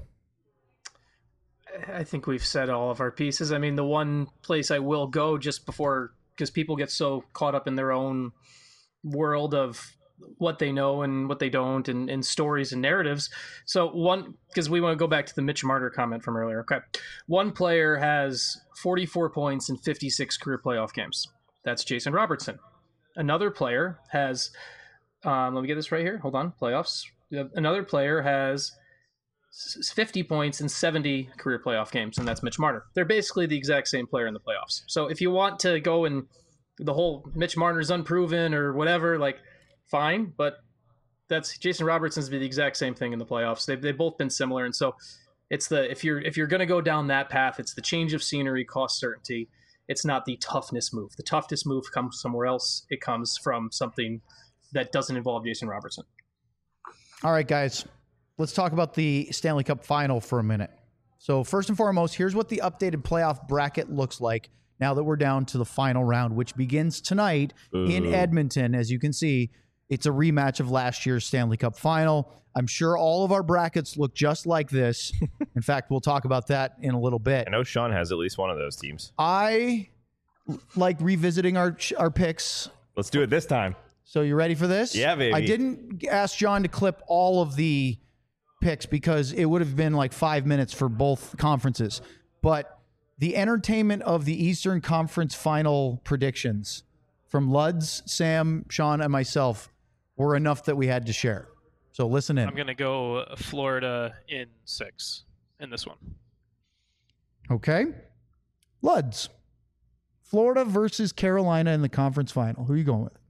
I think we've said all of our pieces. I mean, the one place I will go just before, because people get so caught up in their own world of what they know and what they don't, and, and stories and narratives. So one, because we want to go back to the Mitch Marner comment from earlier. Okay. One player has forty-four points in fifty-six career playoff games. That's Jason Robertson. Another player has, um, let me get this right here. Hold on. Playoffs. Another player has fifty points in seventy career playoff games, and that's Mitch Marner. They're basically the exact same player in the playoffs. So if you want to go and the whole Mitch Marner's unproven or whatever, like, fine, but that's Jason Robertson's the exact same thing in the playoffs. They've they've both been similar, and so it's the if you're if you're going to go down that path, it's the change of scenery, cost certainty. It's not the toughness move. The toughness move comes somewhere else. It comes from something that doesn't involve Jason Robertson. All right, guys, let's talk about the Stanley Cup final for a minute. So first and foremost, here's what the updated playoff bracket looks like now that we're down to the final round, which begins tonight Ooh. in Edmonton. As you can see, it's a rematch of last year's Stanley Cup final. I'm sure all of our brackets look just like this. In fact, we'll talk about that in a little bit. I know Sean has at least one of those teams. I like revisiting our our picks. Let's do it this time. So you ready for this? Yeah, baby. I didn't ask John to clip all of the picks because it would have been like five minutes for both conferences. But the entertainment of the Eastern Conference final predictions from Luds, Sam, Sean, and myself were enough that we had to share. So listen in. I'm going to go Florida in six in this one. Okay. Luds. Florida versus Carolina in the conference final. Who are you going with?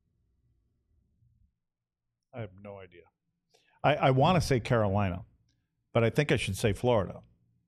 I have no idea. I, I want to say Carolina, but I think I should say Florida.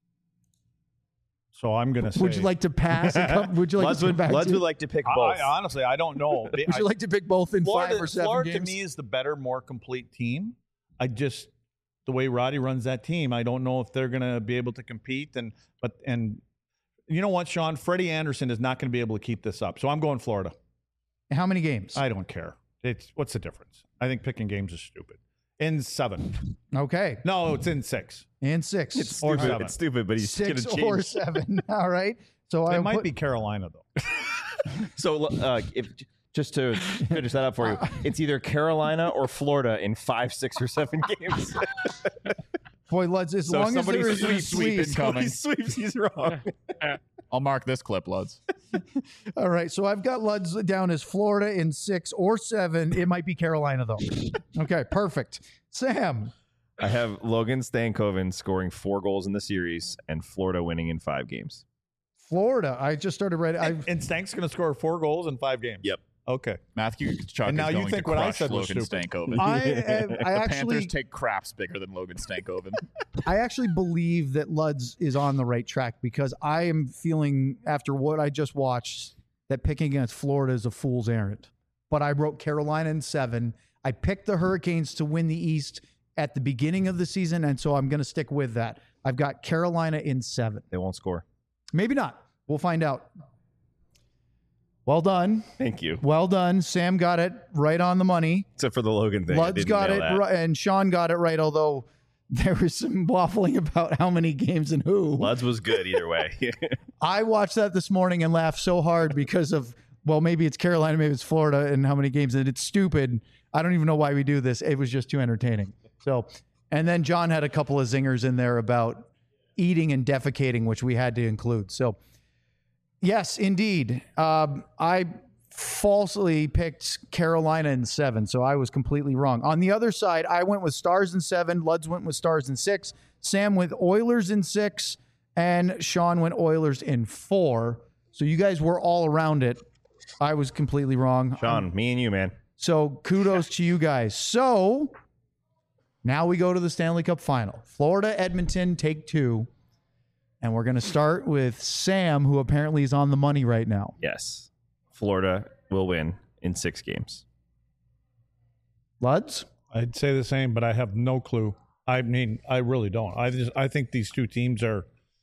So I'm going to say... Would you like to pass? And come, would you like Luds to would, back Luds to? would like to pick both. I, honestly, I don't know. Would you like to pick both in Florida, five or seven Florida games? to me is the better, more complete team. I just... The way Roddy runs that team, I don't know if they're going to be able to compete. And but and you know what, Sean? Freddie Anderson is not going to be able to keep this up. So I'm going Florida. How many games? I don't care. It's what's the difference? I think picking games is stupid. In seven. Okay. No, it's in six. In six. It's or stupid. seven. It's stupid, but he's going to Six change. or seven. All right. So it I might put, be Carolina though. So uh, if just to finish that up for you, it's either Carolina or Florida in five, six, or seven games. Boy, Luds, as So long as there is a sweeps, sweep. somebody sweeps, he's wrong. I'll mark this clip, Luds. All right. So I've got Luds down as Florida in six or seven. It might be Carolina, though. Okay, perfect. Sam. I have Logan Stankoven scoring four goals in the series and Florida winning in five games. Florida. I just started writing. And, and Stank's going to score four goals in five games. Yep. Okay. Matthew Tkachuk And now is you going think to what I crush said was Logan stupid. Stankoven. I, I, I the actually, Panthers take craps bigger than Logan Stankoven. I actually believe that Luds is on the right track because I am feeling after what I just watched that picking against Florida is a fool's errand. But I wrote Carolina in seven. I picked the Hurricanes to win the East at the beginning of the season, and so I'm going to stick with that. I've got Carolina in seven. They won't score. Maybe not. We'll find out. Well done. Thank you. Well done. Sam got it right on the money. Except for the Logan thing. I Luds didn't got nail it that. right, and Sean got it right, although there was some waffling about how many games and who. Luds was good either way. I watched that this morning and laughed so hard because of, well, maybe it's Carolina, maybe it's Florida, and how many games. And it's stupid. I don't even know why we do this. It was just too entertaining. So, and then John had a couple of zingers in there about eating and defecating, which we had to include. So, yes, indeed. Um, I falsely picked Carolina in seven, so I was completely wrong. On the other side, I went with Stars in seven. Luds went with Stars in six. Sam with Oilers in six. And Sean went Oilers in four. So you guys were all around it. I was completely wrong. Sean, Um, me and you, man. so kudos to you guys. So now we go to the Stanley Cup final. Florida, Edmonton, take two. And we're going to start with Sam, who apparently is on the money right now. Yes. Florida will win in six games. Luds? I'd say the same, but I have no clue. I mean, I really don't. I just I think these two teams are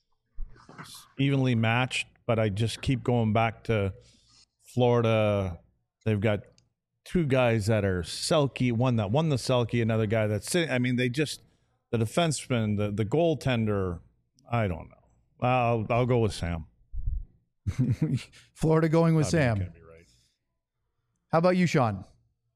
evenly matched, but I just keep going back to Florida. They've got two guys that are Selke, one that won the Selke, another guy that's sitting. I mean, they just the defenseman, the the goaltender. I don't know. I'll I'll go with Sam. Florida going with I mean, Sam. can't be right. How about you, Sean?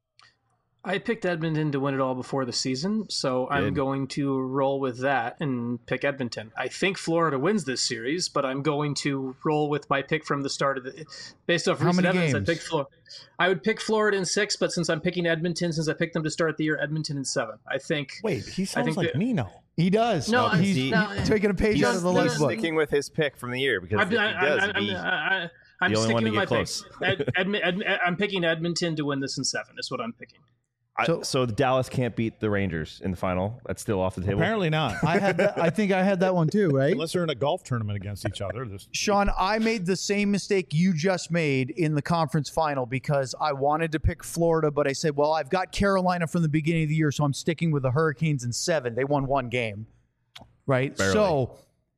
I picked Edmonton to win it all before the season, so I'm Good. going to roll with that and pick Edmonton. I think Florida wins this series, but I'm going to roll with my pick from the start of the. Based off How recent many evidence, games? I picked Florida. I would pick Florida in six, but since I'm picking Edmonton, since I picked them to start the year, Edmonton in seven. I think. Wait, he sounds think like that- me now. He does. No, he's, he- no, he's taking a page He's, out of the no, he's life book. sticking with his pick from the year because I'm, if he I, does, I, he- I, I, I'm the only sticking one to with my get close. picks. Ed, Edmi- Ed, I'm picking Edmonton to win this in seven. Is what I'm picking. I- So- so, Dallas can't beat the Rangers in the final. That's still off the table. Apparently not. I had that, I think I had that one too, right? Unless they're in a golf tournament against each other. This Sean, I made the same mistake you just made in the conference final because I wanted to pick Florida, but I said, well, I've got Carolina from the beginning of the year, so I'm sticking with the Hurricanes in seven. They won one game, right? Barely. So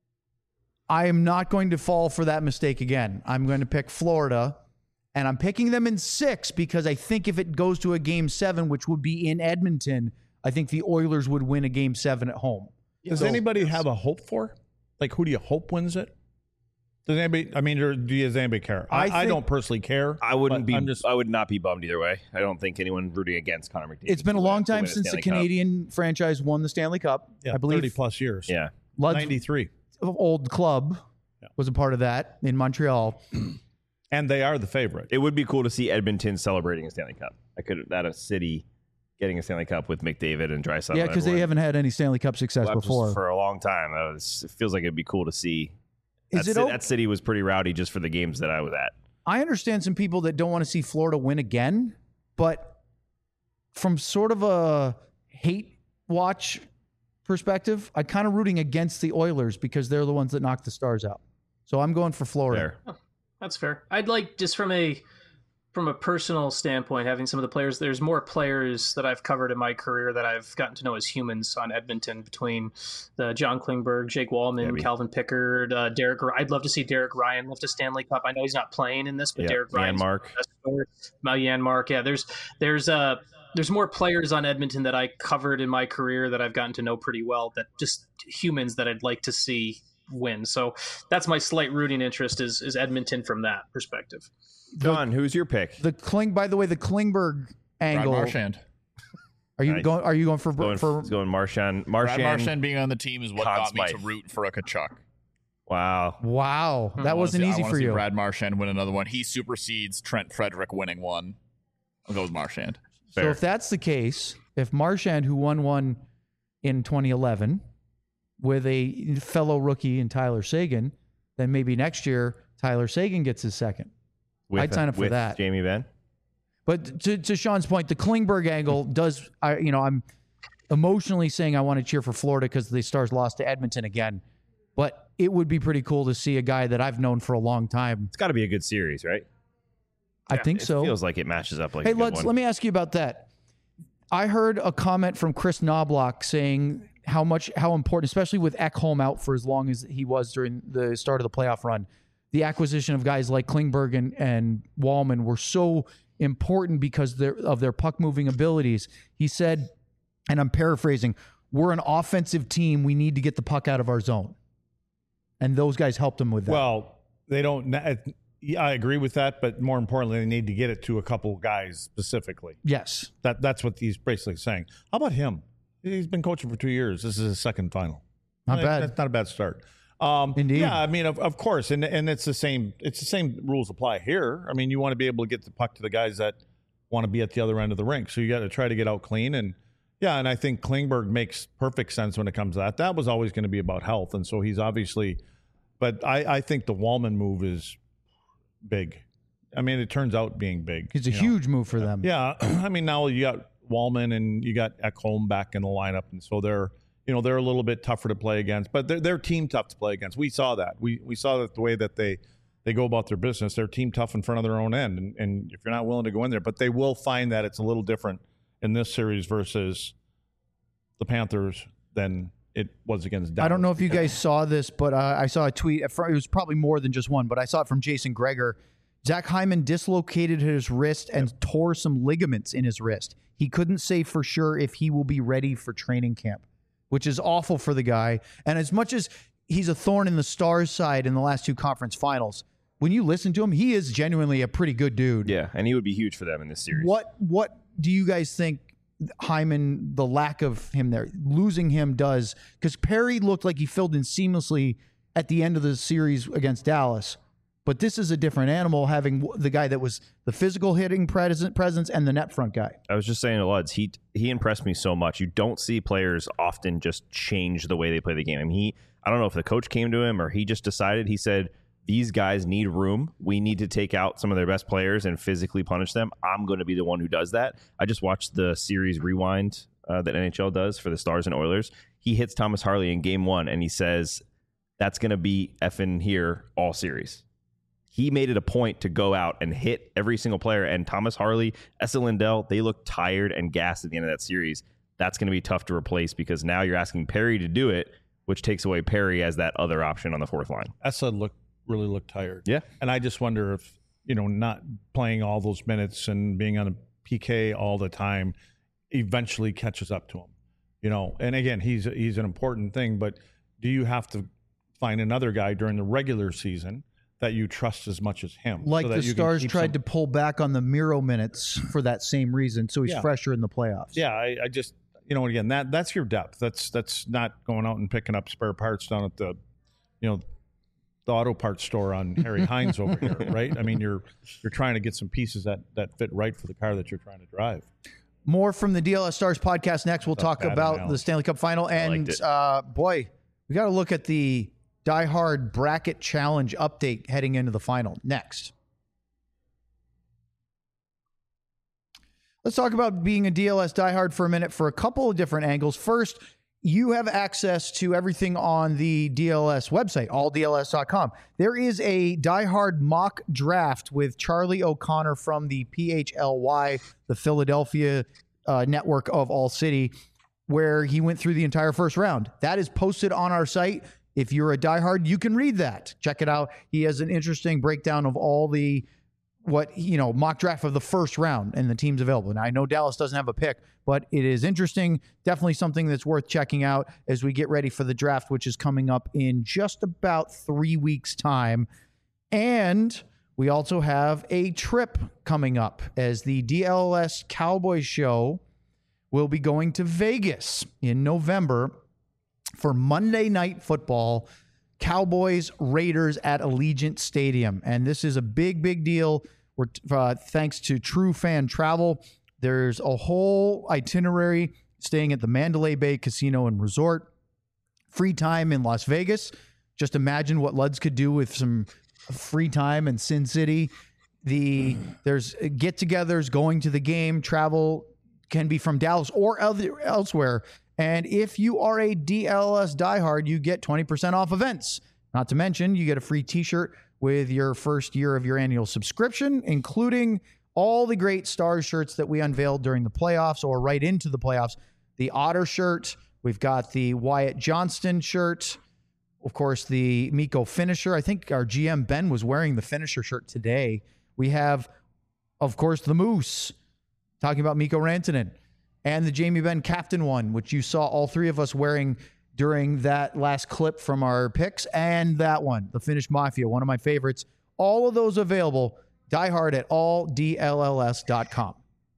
I am not going to fall for that mistake again. I'm going to pick Florida, and I'm picking them in six because I think if it goes to a game seven, which would be in Edmonton, I think the Oilers would win a game seven at home. Does So- anybody have a hope for? Like, who do you hope wins it? Does anybody? I mean, or do you, does anybody care? I, I I, think- don't personally care. I wouldn't but be. I'm just, I would not be bummed either way. I don't think anyone rooting against Connor McDavid. It's been a to long win- to time win a since the Stanley Cup. Canadian franchise won the Stanley Cup. yeah, I believe thirty plus years. Yeah, Lud's ninety-three, old club Yeah. was a part of that in Montreal. and they are the favorite. it would be cool to see Edmonton celebrating a Stanley Cup. I could that a city getting a Stanley Cup with McDavid and Draisaitl. Yeah, and because they everyone. haven't had any Stanley Cup success Well, that was before. for a long time. That was, it feels like it'd be cool to see. Is That, it ci- o- that city was pretty rowdy just for the games that I was at. I understand some people that don't want to see Florida win again, but from sort of a hate watch perspective, I'm kind of rooting against the Oilers because they're the ones that knocked the Stars out. So I'm going for Florida. There. That's fair. I'd like just from a from a personal standpoint, having some of the players. There's more players that I've covered in my career that I've gotten to know as humans on Edmonton between the John Klingberg, Jake Wallman, Maybe. Calvin Pickard, uh, Derek. I'd love to see Derek Ryan lift a Stanley Cup. I know he's not playing in this, but Yeah, Derek Ryan, Mark. Jan Mark. Yeah, there's there's uh there's more players on Edmonton that I covered in my career that I've gotten to know pretty well. That just humans that I'd like to see win. So that's my slight rooting interest is is Edmonton from that perspective. John, who's your pick? The Kling, by the way, the Klingberg Brad angle. Marchand. Are you Nice. going? Are you going for Going, for? it's going Marchand. Brad Marchand. Marchand being on the team is what Conn got me to Smythe. root for a Kachuk. Wow. Wow, I that wanna wasn't see- I easy wanna for see you. Brad Marchand win another one. He supersedes Trent Frederick winning one. I'll go with Marchand. So Fair. if that's the case, if Marchand, who won one in twenty eleven with a fellow rookie in Tyler Sagan, then maybe next year Tyler Sagan gets his second. With, I'd sign up for with that. Jamie Benn. But to, to Sean's point, the Klingberg angle does, I, you know, I'm emotionally saying I want to cheer for Florida because the Stars lost to Edmonton again. But it would be pretty cool to see a guy that I've known for a long time. It's got to be a good series, right? I think It so. feels like it matches up like Hey, a good let's one. let me ask you about that. I heard a comment from Chris Knobloch saying how much how important, especially with Ekholm out for as long as he was during the start of the playoff run, the acquisition of guys like Klingberg and, and Wallman were so important because they're, of their puck moving abilities. He said, and I'm paraphrasing, we're an offensive team. We need to get the puck out of our zone. And those guys helped him with that. Well, they don't. Yeah, I agree with that, but more importantly, they need to get it to a couple guys specifically. yes. That that's what he's basically saying. How about him? He's been coaching for two years. This is his second final. Not Like, bad. That's not a bad start. Um, Indeed. Yeah, I mean, of, of course, and and it's the same. It's the same rules apply here. I mean, you want to be able to get the puck to the guys that want to be at the other end of the rink. So you got to try to get out clean. And yeah, and I think Klingberg makes perfect sense when it comes to that. That was always going to be about health, and so he's obviously. But I, I think the Wallman move is big. I mean, it turns out being big. It's a you know. huge move for them. Yeah, I mean, now you got Wallman and you got Ekholm back in the lineup, and so they're, you know, they're a little bit tougher to play against, but they're, they're team tough to play against. We saw that. We we saw that the way that they they go about their business. They're team tough in front of their own end, and, and if you're not willing to go in there, but they will find that it's a little different in this series versus the Panthers than it was against Dallas. I don't know if you guys saw this, but uh, I saw a tweet. It was probably more than just one, but I saw it from Jason Gregor. Zach Hyman dislocated his wrist and yep. tore some ligaments in his wrist. He couldn't say for sure if he will be ready for training camp, which is awful for the guy. And as much as he's a thorn in the Stars' side in the last two conference finals, when you listen to him, he is genuinely a pretty good dude. Yeah, and he would be huge for them in this series. What What do you guys think Hyman, the lack of him there, losing him does? Because Perry looked like he filled in seamlessly at the end of the series against Dallas. But this is a different animal, having the guy that was the physical hitting presence, presence and the net front guy. I was just saying to Luds, he he impressed me so much. You don't see players often just change the way they play the game. I mean, he, I don't know if the coach came to him or he just decided, he said, these guys need room. We need to take out some of their best players and physically punish them. I'm going to be the one who does that. I just watched the series rewind uh, that N H L does for the Stars and Oilers. He hits Thomas Harley in game one, and he says, that's going to be effing here all series. He made it a point to go out and hit every single player. And Thomas Harley, Esa Lindell, they look tired and gassed at the end of that series. That's going to be tough to replace because now you're asking Perry to do it, which takes away Perry as that other option on the fourth line. Esa looked really looked tired. Yeah. And I just wonder if, you know, not playing all those minutes and being on a P K all the time eventually catches up to him. You know, and again, he's he's an important thing, but do you have to find another guy during the regular season that you trust as much as him? Like so the Stars tried some... to pull back on the Miro minutes for that same reason, so he's yeah. fresher in the playoffs. Yeah, I, I just, you know, again, that that's your depth. That's that's not going out and picking up spare parts down at the, you know, the auto parts store on Harry Hines over here, right? I mean, you're you're trying to get some pieces that that fit right for the car that you're trying to drive. More from the D L S Stars podcast next. We'll talk about analogy. The Stanley Cup final. And uh, boy, we got to look at the Die Hard Bracket Challenge update heading into the final next. Let's talk about being a D L S diehard for a minute for a couple of different angles. First, you have access to everything on the D L S website, all D L S dot com. There is a diehard mock draft with Charlie O'Connor from the P H L Y, the Philadelphia uh, network of All City, where he went through the entire first round. That is posted on our site. If you're a diehard, you can read that. Check it out. He has an interesting breakdown of all the what, you know, mock draft of the first round and the teams available. And I know Dallas doesn't have a pick, but it is interesting. Definitely something that's worth checking out as we get ready for the draft, which is coming up in just about three weeks' time. And we also have a trip coming up as the D L S Cowboys show will be going to Vegas in November for Monday Night Football, Cowboys Raiders at Allegiant Stadium. And this is a big, big deal. We're uh, thanks to True Fan Travel. There's a whole itinerary staying at the Mandalay Bay Casino and Resort. Free time in Las Vegas. Just imagine what Luds could do with some free time in Sin City. The there's get-togethers, going to the game. Travel can be from Dallas or other, elsewhere. And if you are a D L S diehard, you get twenty percent off events. Not to mention, you get a free t-shirt with your first year of your annual subscription, including all the great Stars shirts that we unveiled during the playoffs or right into the playoffs. The Otter shirt. We've got the Wyatt Johnston shirt. Of course, the Mikko finisher. I think our G M Ben was wearing the finisher shirt today. We have, of course, the Moose. Talking about Mikko Rantanen. And the Jamie Benn captain one, which you saw all three of us wearing during that last clip from our picks. And that one, the Finnish Mafia, one of my favorites. All of those available. Diehard at all D L L S dot com.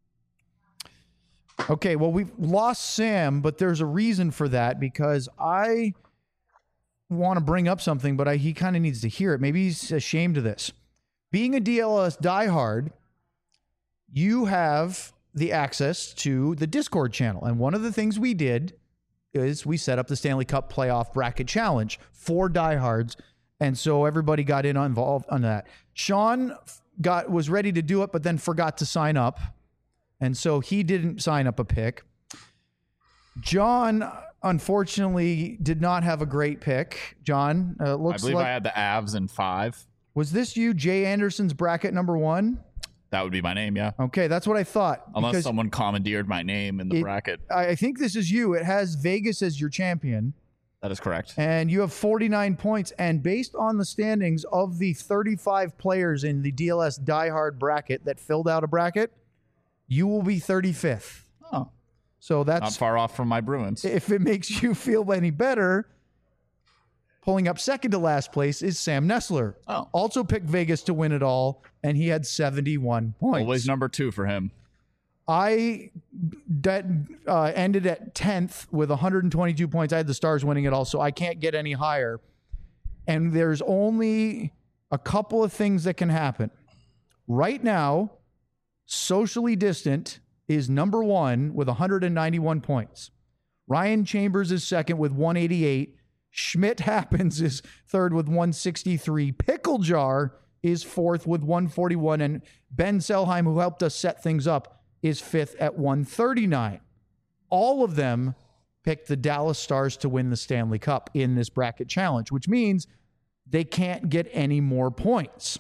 Okay, well, we've lost Sam, but there's a reason for that because I want to bring up something, but I, he kind of needs to hear it. Maybe he's ashamed of this. Being a D L S diehard, you have the access to the Discord channel. And one of the things we did is we set up the Stanley Cup Playoff Bracket Challenge for diehards. And so everybody got in involved on that. Sean got was ready to do it, but then forgot to sign up. And so he didn't sign up a pick. John, unfortunately, did not have a great pick. John, uh, looks I believe like... I had the Avs in five. Was this you, Jay Anderson's bracket number one? That would be my name, yeah. Okay, that's what I thought. Unless someone commandeered my name in the it, bracket. I think this is you. It has Vegas as your champion. That is correct. And you have forty-nine points. And based on the standings of the thirty-five players in the D L S Die Hard bracket that filled out a bracket, you will be thirty-fifth. Oh. So that's not far off from my Bruins. If it makes you feel any better, pulling up second to last place is Sam Nessler. Oh. Also picked Vegas to win it all, and he had seventy-one points. Always number two for him. I that uh, ended at tenth with one hundred twenty-two points. I had the Stars winning it all, so I can't get any higher. And there's only a couple of things that can happen. Right now, Socially Distant is number one with one hundred ninety-one points. Ryan Chambers is second with one eighty-eight. Schmidt Happens is third with one sixty-three. Pickle Jar is fourth with one forty-one. And Ben Selheim, who helped us set things up, is fifth at one thirty-nine. All of them picked the Dallas Stars to win the Stanley Cup in this bracket challenge, which means they can't get any more points.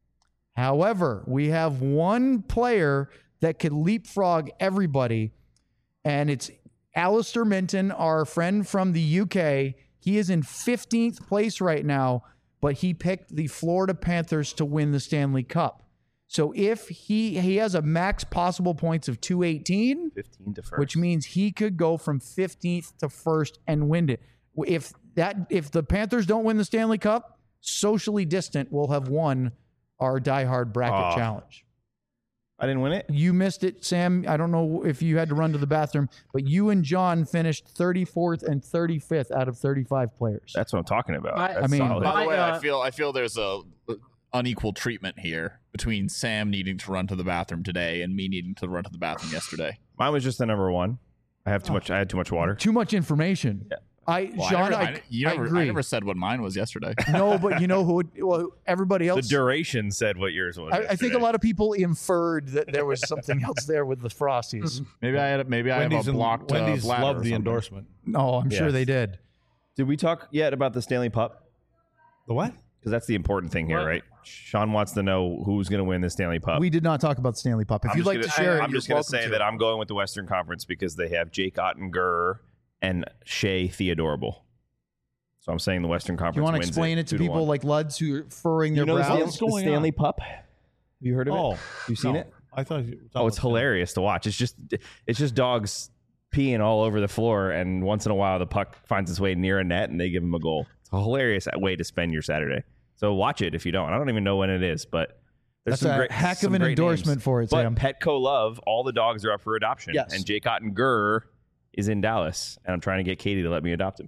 However, we have one player that could leapfrog everybody, and it's Alistair Minton, our friend from the U K. He is in fifteenth place right now, but he picked the Florida Panthers to win the Stanley Cup. So if he he has a max possible points of two eighteen, fifteen to first, which means he could go from fifteenth to first and win it. If that if the Panthers don't win the Stanley Cup, Socially Distant will have won our Die Hard bracket oh, challenge. I didn't win it. You missed it, Sam. I don't know if you had to run to the bathroom, but you and John finished thirty-fourth and thirty-fifth out of thirty-five players. That's what I'm talking about. I, That's I mean, solid. By the way, uh, I feel I feel there's a unequal treatment here between Sam needing to run to the bathroom today and me needing to run to the bathroom yesterday. Mine was just the number one. I have too Oh. much. I had too much water. Too much information. Yeah. I, Well, John, I, never, I, I, you I never, agree. I never said what mine was yesterday. No, but you know who? Well, everybody The else. duration said what yours was. I, I think a lot of people inferred that there was something else there with the Frosties. Maybe I had maybe I Wendy's, have a and- blocked uh, Wendy's bladder or loved the something. endorsement. No, I'm sure Yes. they did. Did we talk yet about the Stanley Cup? The what? Because that's the important thing here, What? right? Sean wants to know who's going to win the Stanley Cup. We did not talk about the Stanley Cup. If I'm you'd just like gonna, to share I, it, I'm just going going to to say that I'm going with the Western Conference because they have Jake Ottinger and Shea Theodorable. So I'm saying the Western Conference. Do you want to wins explain it to two people one. like Luds who are furrowing their you know the, brows? Stan- What's the going Stanley on? Pup? Have you heard of Oh, it? You seen no. it? I thought you. Oh, it's hilarious to watch. It's just it's just dogs peeing all over the floor, and once in a while the puck finds its way near a net, and they give them a goal. It's a hilarious way to spend your Saturday. So watch it if you don't. I don't even know when it is, but there's That's some a great heck some of an great endorsement names. for it, But Sam. Petco Love, all the dogs are up for adoption, Yes. and Jake Ottinger is in Dallas, and I'm trying to get Katie to let me adopt him.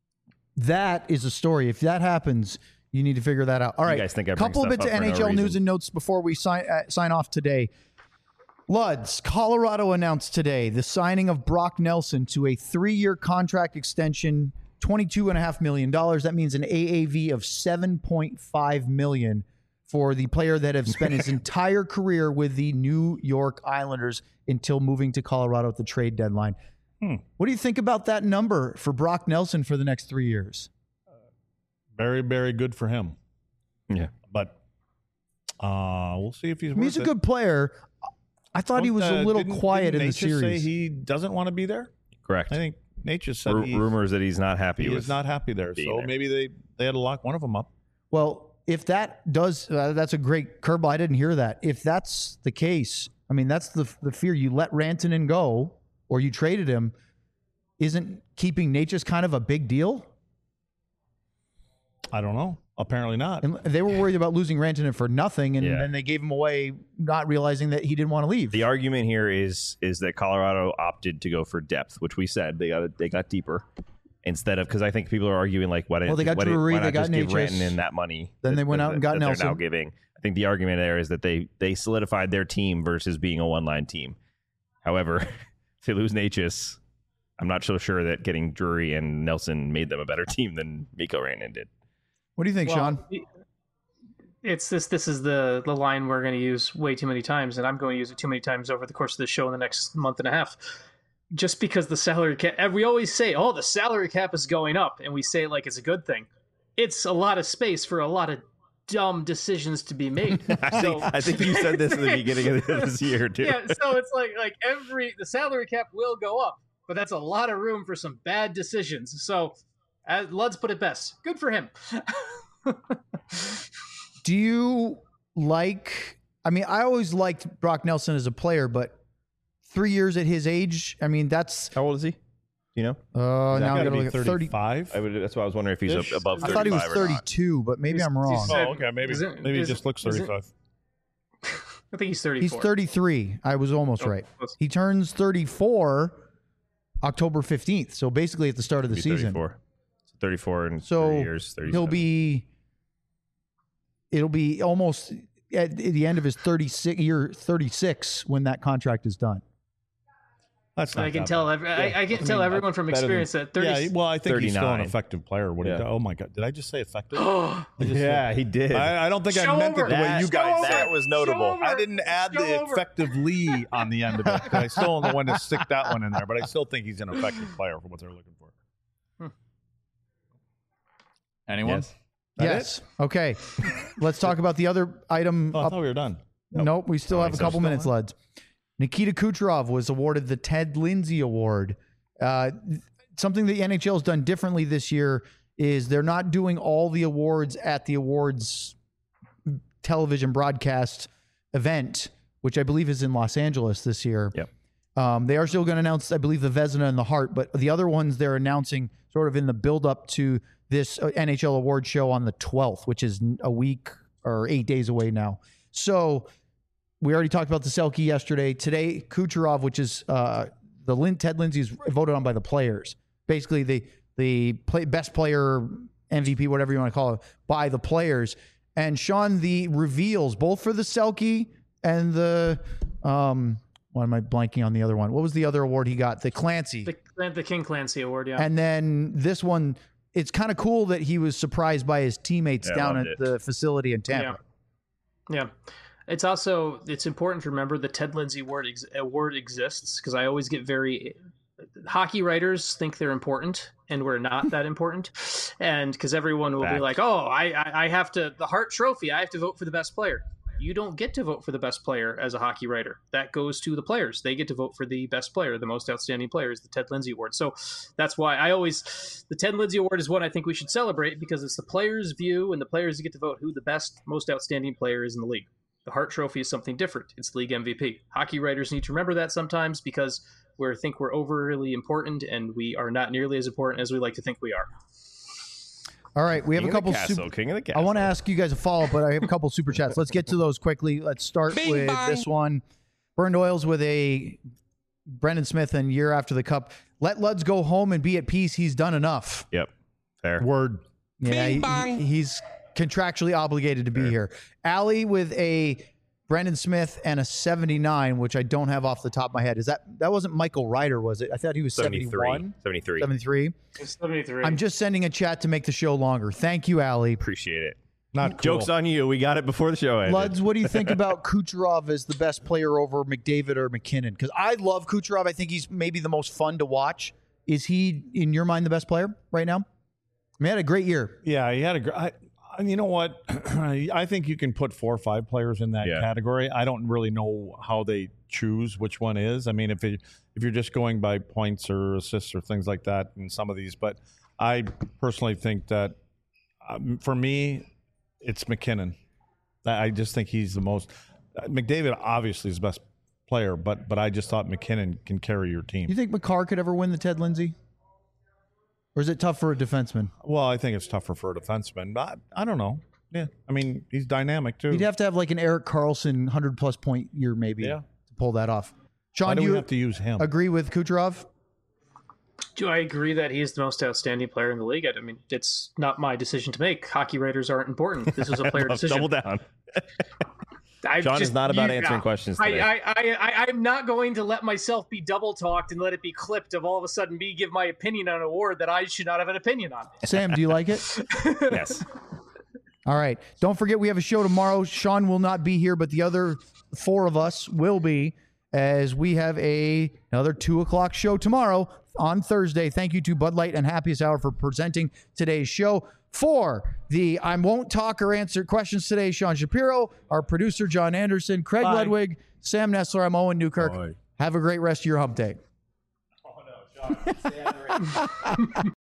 That is a story. If that happens, you need to figure that out. All right. You guys think I bring couple stuff bits of up for N H L no news reason. and notes before we sign uh, sign off today. Luds, Colorado announced today the signing of Brock Nelson to a three-year contract extension, twenty-two point five million dollars. That means an A A V of seven point five million dollars for the player that have spent his entire career with the New York Islanders until moving to Colorado at the trade deadline. Hmm. What do you think about that number for Brock Nelson for the next three years? Very, very good for him. Yeah. But uh, we'll see if he's. I mean, he's a worth it. good player. I thought he was Don't, a uh, little didn't- quiet didn't in the Natchez series. Say he doesn't want to be there. Correct. I think Natchez said Ru- he, rumors that he's not happy he with is not happy there. being So there. maybe they they had to lock one of them up. Well, if that does, uh, that's a great curveball. I didn't hear that. If that's the case, I mean, that's the the fear. You let Rantanen go, or you traded him. Isn't keeping Natchez kind of a big deal? I don't know. Apparently not. And they were worried about losing Rantanen for nothing, and Yeah. then they gave him away, not realizing that he didn't want to leave. The argument here is is that Colorado opted to go for depth, which we said they got they got deeper instead of because I think people are arguing like why didn't Well, they got why, didn't- Drury, why not they got just give Natchez. Rantanen that money? Then that- they went that- out and got that they're Nelson. now giving. I think the argument there is that they they solidified their team versus being a one line team. However, if they lose Natchez, I'm not so sure that getting Drury and Nelson made them a better team than Mikko Rantanen did. What do you think, Well, Sean? it's this. This is the the line we're going to use way too many times, and I'm going to use it too many times over the course of the show in the next month and a half. Just because the salary cap, and we always say, "Oh, the salary cap is going up," and we say it like it's a good thing. It's a lot of space for a lot of dumb decisions to be made. I, So- think, I think you said this at the beginning of this year, too. Yeah, so it's like like every the salary cap will go up, but that's a lot of room for some bad decisions. So, as Lud's put it best, good for him. Do you like? I mean, I always liked Brock Nelson as a player, but three years at his age, I mean, that's. How old is he? You know, Uh, now I'm Gotta gonna be look at thirty. thirty-five. I would. That's why I was wondering if he's Ish. up above I thirty-five thought he was or not. thirty-two, but maybe He's- I'm wrong. he's- Oh, okay. Maybe Is it- maybe he is- just looks is it- thirty-five. I think he's thirty-four. He's thirty-three. I was almost Oh, right. close. He turns thirty-four October fifteenth. So basically at the start of the Be season. thirty-four. So thirty-four in So three years. he'll be it'll be almost at the end of his thirty-six year thirty-six when that contract is done. That's not I can that tell. bad. Every, Yeah. I, I can I tell mean, everyone from better than- experience that thirty. Yeah, well, I think he's still an thirty-nine. effective player. What he Yeah. does. Oh my god, did I just say effective? Oh, I just Yeah, he did. I, I don't think Show I meant over. it the way That- you guys Show said. that was notable. Show over. I didn't add Show the over. effectively on the end of it. 'Cause I still am the one to stick that one in there, but I still think he's an effective player for what they're looking for. Anyone? Yes. That yes. Okay. Let's talk about the other item. Oh, I up. thought we were done. Nope. We still Oh, have a so couple still minutes, Luds. Nikita Kucherov was awarded the Ted Lindsay Award. Uh, something that the N H L has done differently this year is they're not doing all the awards at the awards television broadcast event, which I believe is in Los Angeles this year. Yep. Um, they are still going to announce, I believe, the Vezina and the Hart, but the other ones they're announcing sort of in the build up to this uh, N H L award show on the twelfth, which is a week or eight days away now. So we already talked about the Selke yesterday. Today, Kucherov, which is uh, the Lin- Ted Lindsay, is voted on by the players. Basically, the the play, best player, M V P, whatever you want to call it, by the players. And Sean, the reveals both for the Selke and the um, why am I blanking on the other one? What was the other award he got? The Clancy. the, the King Clancy Award. Yeah. And then this one, it's kind of cool that he was surprised by his teammates Yeah, I down loved at it. the facility in Tampa. Yeah. Yeah. It's also it's important to remember the Ted Lindsay Award ex- award exists because I always get very hockey writers think they're important and we're not that important, and because everyone will Fact. be like, oh, I, I I have to the Hart Trophy, I have to vote for the best player. You don't get to vote for the best player as a hockey writer. That goes to the players. They get to vote for the best player, the most outstanding player is the Ted Lindsay Award. So that's why I always, the Ted Lindsay Award is what I think we should celebrate because it's the players' view and the players get to vote who the best, most outstanding player is in the league. The Hart Trophy is something different. It's league M V P. Hockey writers need to remember that sometimes because we think we're overly important and we are not nearly as important as we like to think we are. All right, we have King a couple. of the castle, Super, King of the I castle. want to ask you guys a follow up, but I have a couple super chats. Let's get to those quickly. Let's start Bing with bong. this one. Burned Oils with a Brendan Smith and year after the cup. Let Luds go home and be at peace. He's done enough. Yep. Fair. Word. Yeah, Bing he- bong. he- he's contractually obligated to be here. Allie with a Brendan Smith and a seventy-nine, which I don't have off the top of my head. Is that that wasn't Michael Ryder, was it? I thought he was seventy-three. seventy-one, seventy-three. seventy-three. It's seventy-three. I'm just sending a chat to make the show longer. Thank you, Allie. Appreciate it. Not cool. Joke's on you. We got it before the show ended. Luds, what do you think about Kucherov as the best player over McDavid or McKinnon? Because I love Kucherov. I think he's maybe the most fun to watch. Is he, in your mind, the best player right now? I mean, he had a great year. Yeah, he had a great. I, I- you know what? I think you can put four or five players in that Yeah. category. I don't really know how they choose which one is. I mean, if it, if you're just going by points or assists or things like that in some of these, but I personally think that um, for me, it's McKinnon. I I just think he's the most. McDavid obviously is the best player, but but I just thought McKinnon can carry your Do you team. think McCarr could ever win the Ted Lindsay? Or is it tough for a defenseman? Well, I think it's tougher for a defenseman. But I, I don't know. Yeah, I mean he's dynamic too. You'd have to have like an Eric Carlson one hundred plus point year maybe Yeah. to pull that off. Why Sean, do do we you have to use him? agree with Kucherov? Do I agree that he's the most outstanding player in the league? I mean, it's not my decision to make. Hockey writers aren't important. This is a player decision. Double down. I John just- is not about you- answering questions today. I, I, I, I, I'm not going to let myself be double talked and let it be clipped of all of a sudden me give my opinion on an award that I should not have an opinion on. Sam, do you like it? yes. All right. Don't forget we have a show tomorrow. Sean will not be here, but the other four of us will be, as we have a another two o'clock show tomorrow on Thursday. Thank you to Bud Light and Happiest Hour for presenting today's show. For the I won't talk or answer questions today, Sean Shapiro, our producer, John Anderson, Craig Bye. Ludwig, Sam Nessler, I'm Owen Newkirk. Bye. Have a great rest of your hump day. Oh, no, John.